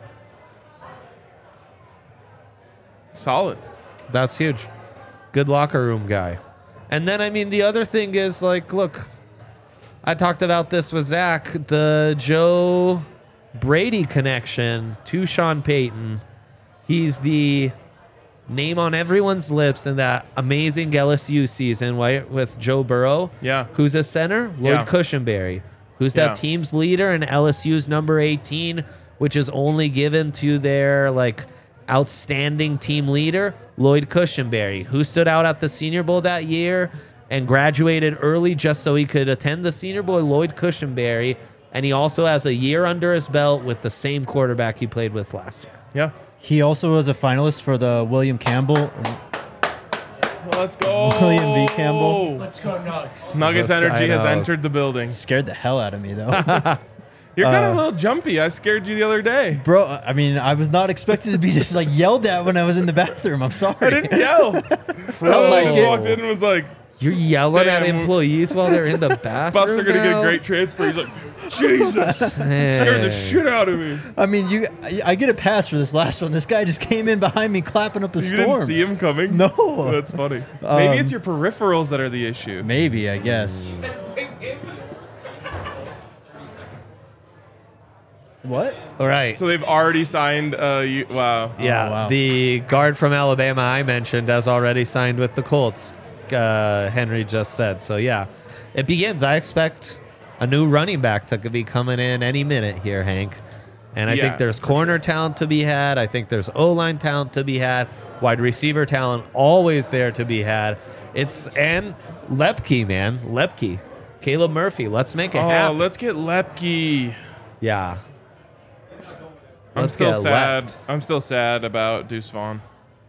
Solid. That's huge. Good locker room guy. And then, I mean, the other thing is, like, look, I talked about this with Zach, the Joe Brady connection to Sean Payton. He's the name on everyone's lips in that amazing LSU season, right, with Joe Burrow. Yeah. Who's a center? Lloyd Yeah. Cushenberry. Who's Yeah. that team's leader and LSU's number 18, which is only given to their, like, outstanding team leader, Lloyd Cushenberry, who stood out at the Senior Bowl that year and graduated early just so he could attend the Senior Bowl, Lloyd Cushenberry. And he also has a year under his belt with the same quarterback he played with last year. Yeah. He also was a finalist for the William Campbell. Let's go. William V. Campbell. Let's go Nuggets. Nuggets Let's go energy has Nuggets. entered the building. Scared the hell out of me, though. You're kind of a little jumpy. I scared you the other day. Bro, I mean, I was not expected to be just like yelled at when I was in the bathroom. I'm sorry. I didn't yell. I like just it. walked in and was like, You're yelling at Damn. employees while they're in the bathroom. Buffs are going to get a now? great transfer. He's like, Jesus. Scared the shit out of me. I mean, I get a pass for this last one. This guy just came in behind me clapping up a You storm. didn't see him coming? No. That's funny. Maybe it's your peripherals that are the issue. Maybe, I guess. What? All right. So they've already signed. Wow. Yeah, Oh, wow. the guard from Alabama I mentioned has already signed with the Colts. Henry just said. So yeah, it begins. I expect a new running back to be coming in any minute here, Hank. And I Yeah, think there's corner talent to be had. I think there's O-line talent to be had. Wide receiver talent always there to be had. And Lepke, man, Lepke, Caleb Murphy. Let's make it Oh, happen. let's get Lepke. Yeah. I'm Let's still get sad. Lep. I'm still sad about Deuce Vaughn.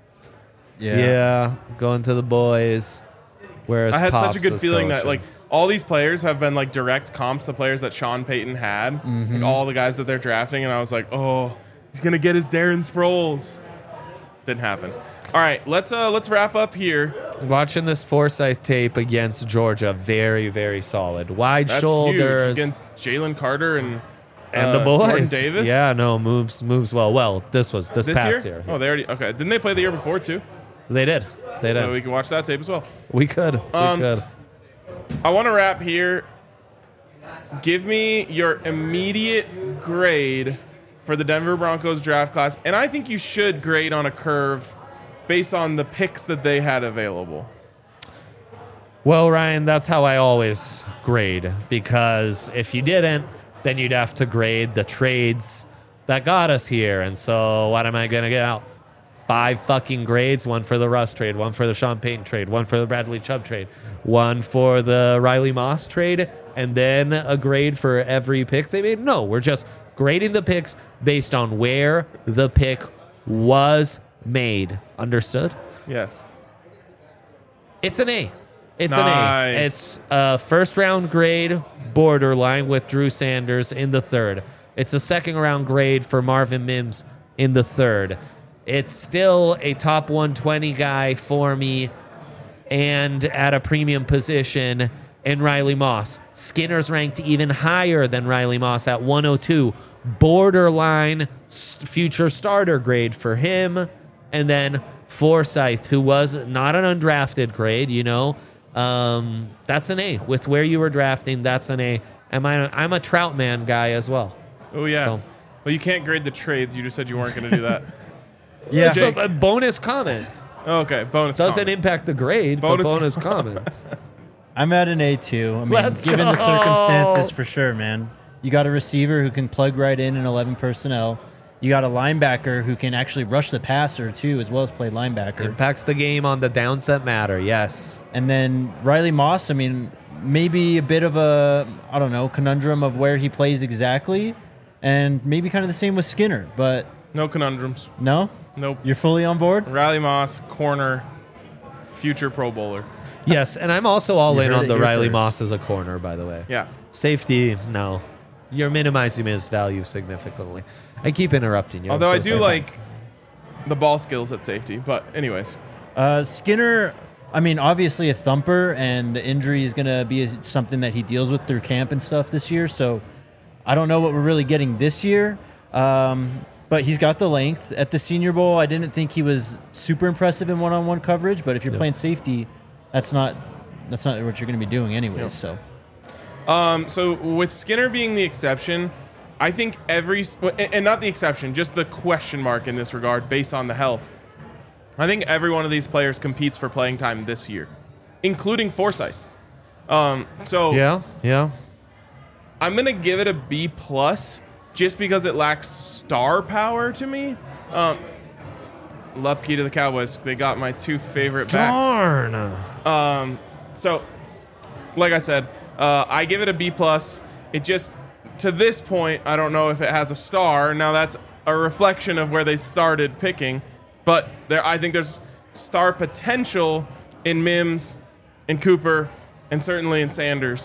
Yeah, going to the boys. Whereas I had such a Pops good is feeling that coaching. like all these players have been like direct comps to players that Sean Payton had. Like all the guys that they're drafting, and I was like, oh, he's gonna get his Darren Sproles. Didn't happen. All right, let's wrap up here. Watching this Forsyth tape against Georgia, very, very solid. Wide That's shoulders huge against Jalen Carter and the boys. Jordan Davis. Yeah, no, moves well. Well, this was this This past year? year. Oh, they already okay. Didn't they play the year before too? They did. They So did. we can watch that tape as well. We could. We could. I want to wrap here. Give me your immediate grade for the Denver Broncos draft class, and I think you should grade on a curve based on the picks that they had available. Well, Ryan, that's how I always grade, because if you didn't, then you'd have to grade the trades that got us here. And so what am I going to get out? 5 fucking grades, one for the Russ trade, one for the Sean Payton trade, one for the Bradley Chubb trade, one for the Riley Moss trade, and then a grade for every pick they made? No, we're just grading the picks based on where the pick was made. Understood? Yes. It's an A. It's Nice. an A. It's a first round grade borderline with Drew Sanders in the third. It's a second round grade for Marvin Mims in the third. it's still a top 120 guy for me and at a premium position in Riley Moss. Skinner's ranked even higher than Riley Moss at 102. Borderline future starter grade for him. And then Forsythe, who was not an undrafted grade, that's an A. With where you were drafting, that's an A. I'm a Troutman guy as well. Oh, yeah. So- Well, you can't grade the trades. You just said you weren't going to do that. Yeah. It's a bonus comment. Okay, bonus Doesn't comment. impact the grade, Bonus but bonus comment. I'm at an A2. I mean, Let's given go. the circumstances, for sure, man. You got a receiver who can plug right in 11 personnel. You got a linebacker who can actually rush the passer, too, as well as play linebacker. Impacts the game on the downs that matter, yes. And then Riley Moss, I mean, maybe a bit of a, conundrum of where he plays exactly. And maybe kind of the same with Skinner. But No conundrums. no? Nope. You're fully on board? Riley Moss, corner, future Pro Bowler. Yes, and I'm also all You in heard on it the here Riley first. Moss as a corner, by the way. Yeah. Safety, no. You're minimizing his value significantly. I keep interrupting you. I'm Although so I do sorry. like the ball skills at safety. But anyways. Skinner, I mean, obviously a thumper, and the injury is going to be something that he deals with through camp and stuff this year. So I don't know what we're really getting this year. But he's got the length. At the Senior Bowl, I didn't think he was super impressive in one-on-one coverage. But if you're playing safety, that's not what you're going to be doing anyways. So So with Skinner being the exception, I think and not the exception, just the question mark in this regard based on the health. I think every one of these players competes for playing time this year, including Forsythe. So Yeah. I'm going to give it a B+ just because it lacks star power to me. Lupke to the Cowboys. They got my two favorite backs. Darn. So, like I said, I give it a B+. It just, to this point, I don't know if it has a star. Now, that's a reflection of where they started picking. But I think there's star potential in Mims, in Cooper, and certainly in Sanders.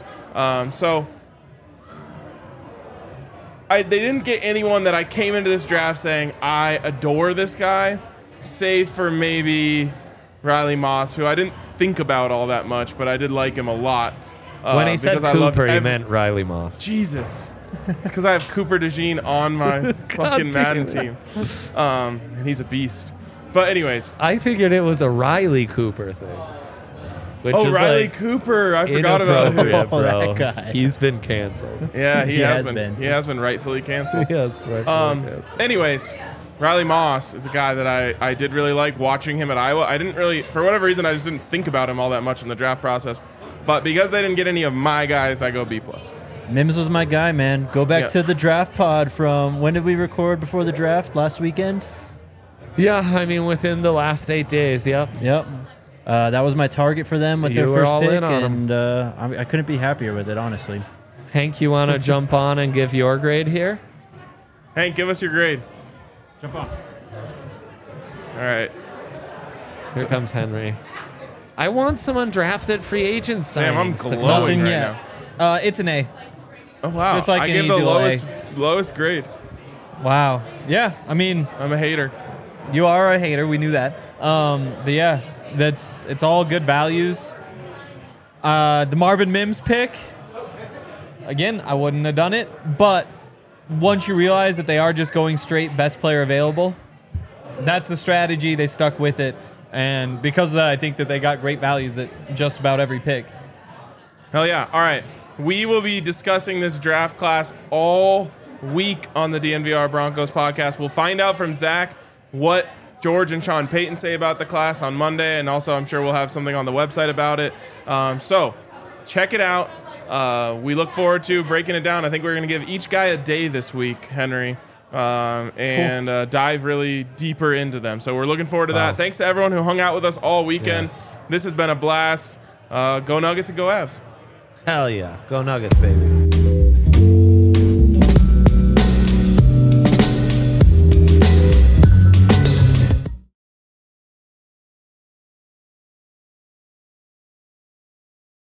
They didn't get anyone that I came into this draft saying, I adore this guy, save for maybe Riley Moss, who I didn't think about all that much, but I did like him a lot. When he said because I loved Cooper, he meant Riley Moss. Jesus. It's because I have Cooper DeJean on my fucking Madden team. And he's a beast. But anyways. I figured it was a Riley Cooper thing. Which Oh, is Riley like Cooper. I forgot about him. inappropriate, Oh, bro. that guy. He's been canceled. Yeah, he He has has been. been. He has been rightfully canceled. Yes, right. Anyways, Riley Moss is a guy that I did really like watching him at Iowa. I didn't really, for whatever reason, I just didn't think about him all that much in the draft process. But because they didn't get any of my guys, I go B+. Mims was my guy, man. Go back Yeah. to the draft pod from when did we record before the draft? Last weekend? Yeah, I mean, within the last 8 days, yep. Yep. That was my target for them with You their were first all pick, in on 'em. and I couldn't be happier with it, honestly. Hank, you want to jump on and give your grade here? Hank, give us your grade. Jump on. All right. Here comes Henry. I want some undrafted free agent signings. Damn, I'm to glowing come. Nothing right yet. It's an A. Oh, wow. Just like I an gave the easy lowest grade. Wow. Yeah. I mean, I'm a hater. you are a hater. We knew that. But yeah, it's all good values. The Marvin Mims pick. Again, I wouldn't have done it, but once you realize that they are just going straight best player available, that's the strategy. They stuck with it, and because of that, I think that they got great values at just about every pick. Hell yeah. All right. We will be discussing this draft class all week on the DNVR Broncos podcast. We'll find out from Zach what George and Sean Payton say about the class on Monday, and also I'm sure we'll have something on the website about it. So check it out. We look forward to breaking it down. I think we're going to give each guy a day this week, Henry, and dive really deeper into them. So we're looking forward to that. Thanks to everyone who hung out with us all weekend. Yes. This has been a blast. Go Nuggets and go Avs. Hell yeah. Go Nuggets, baby.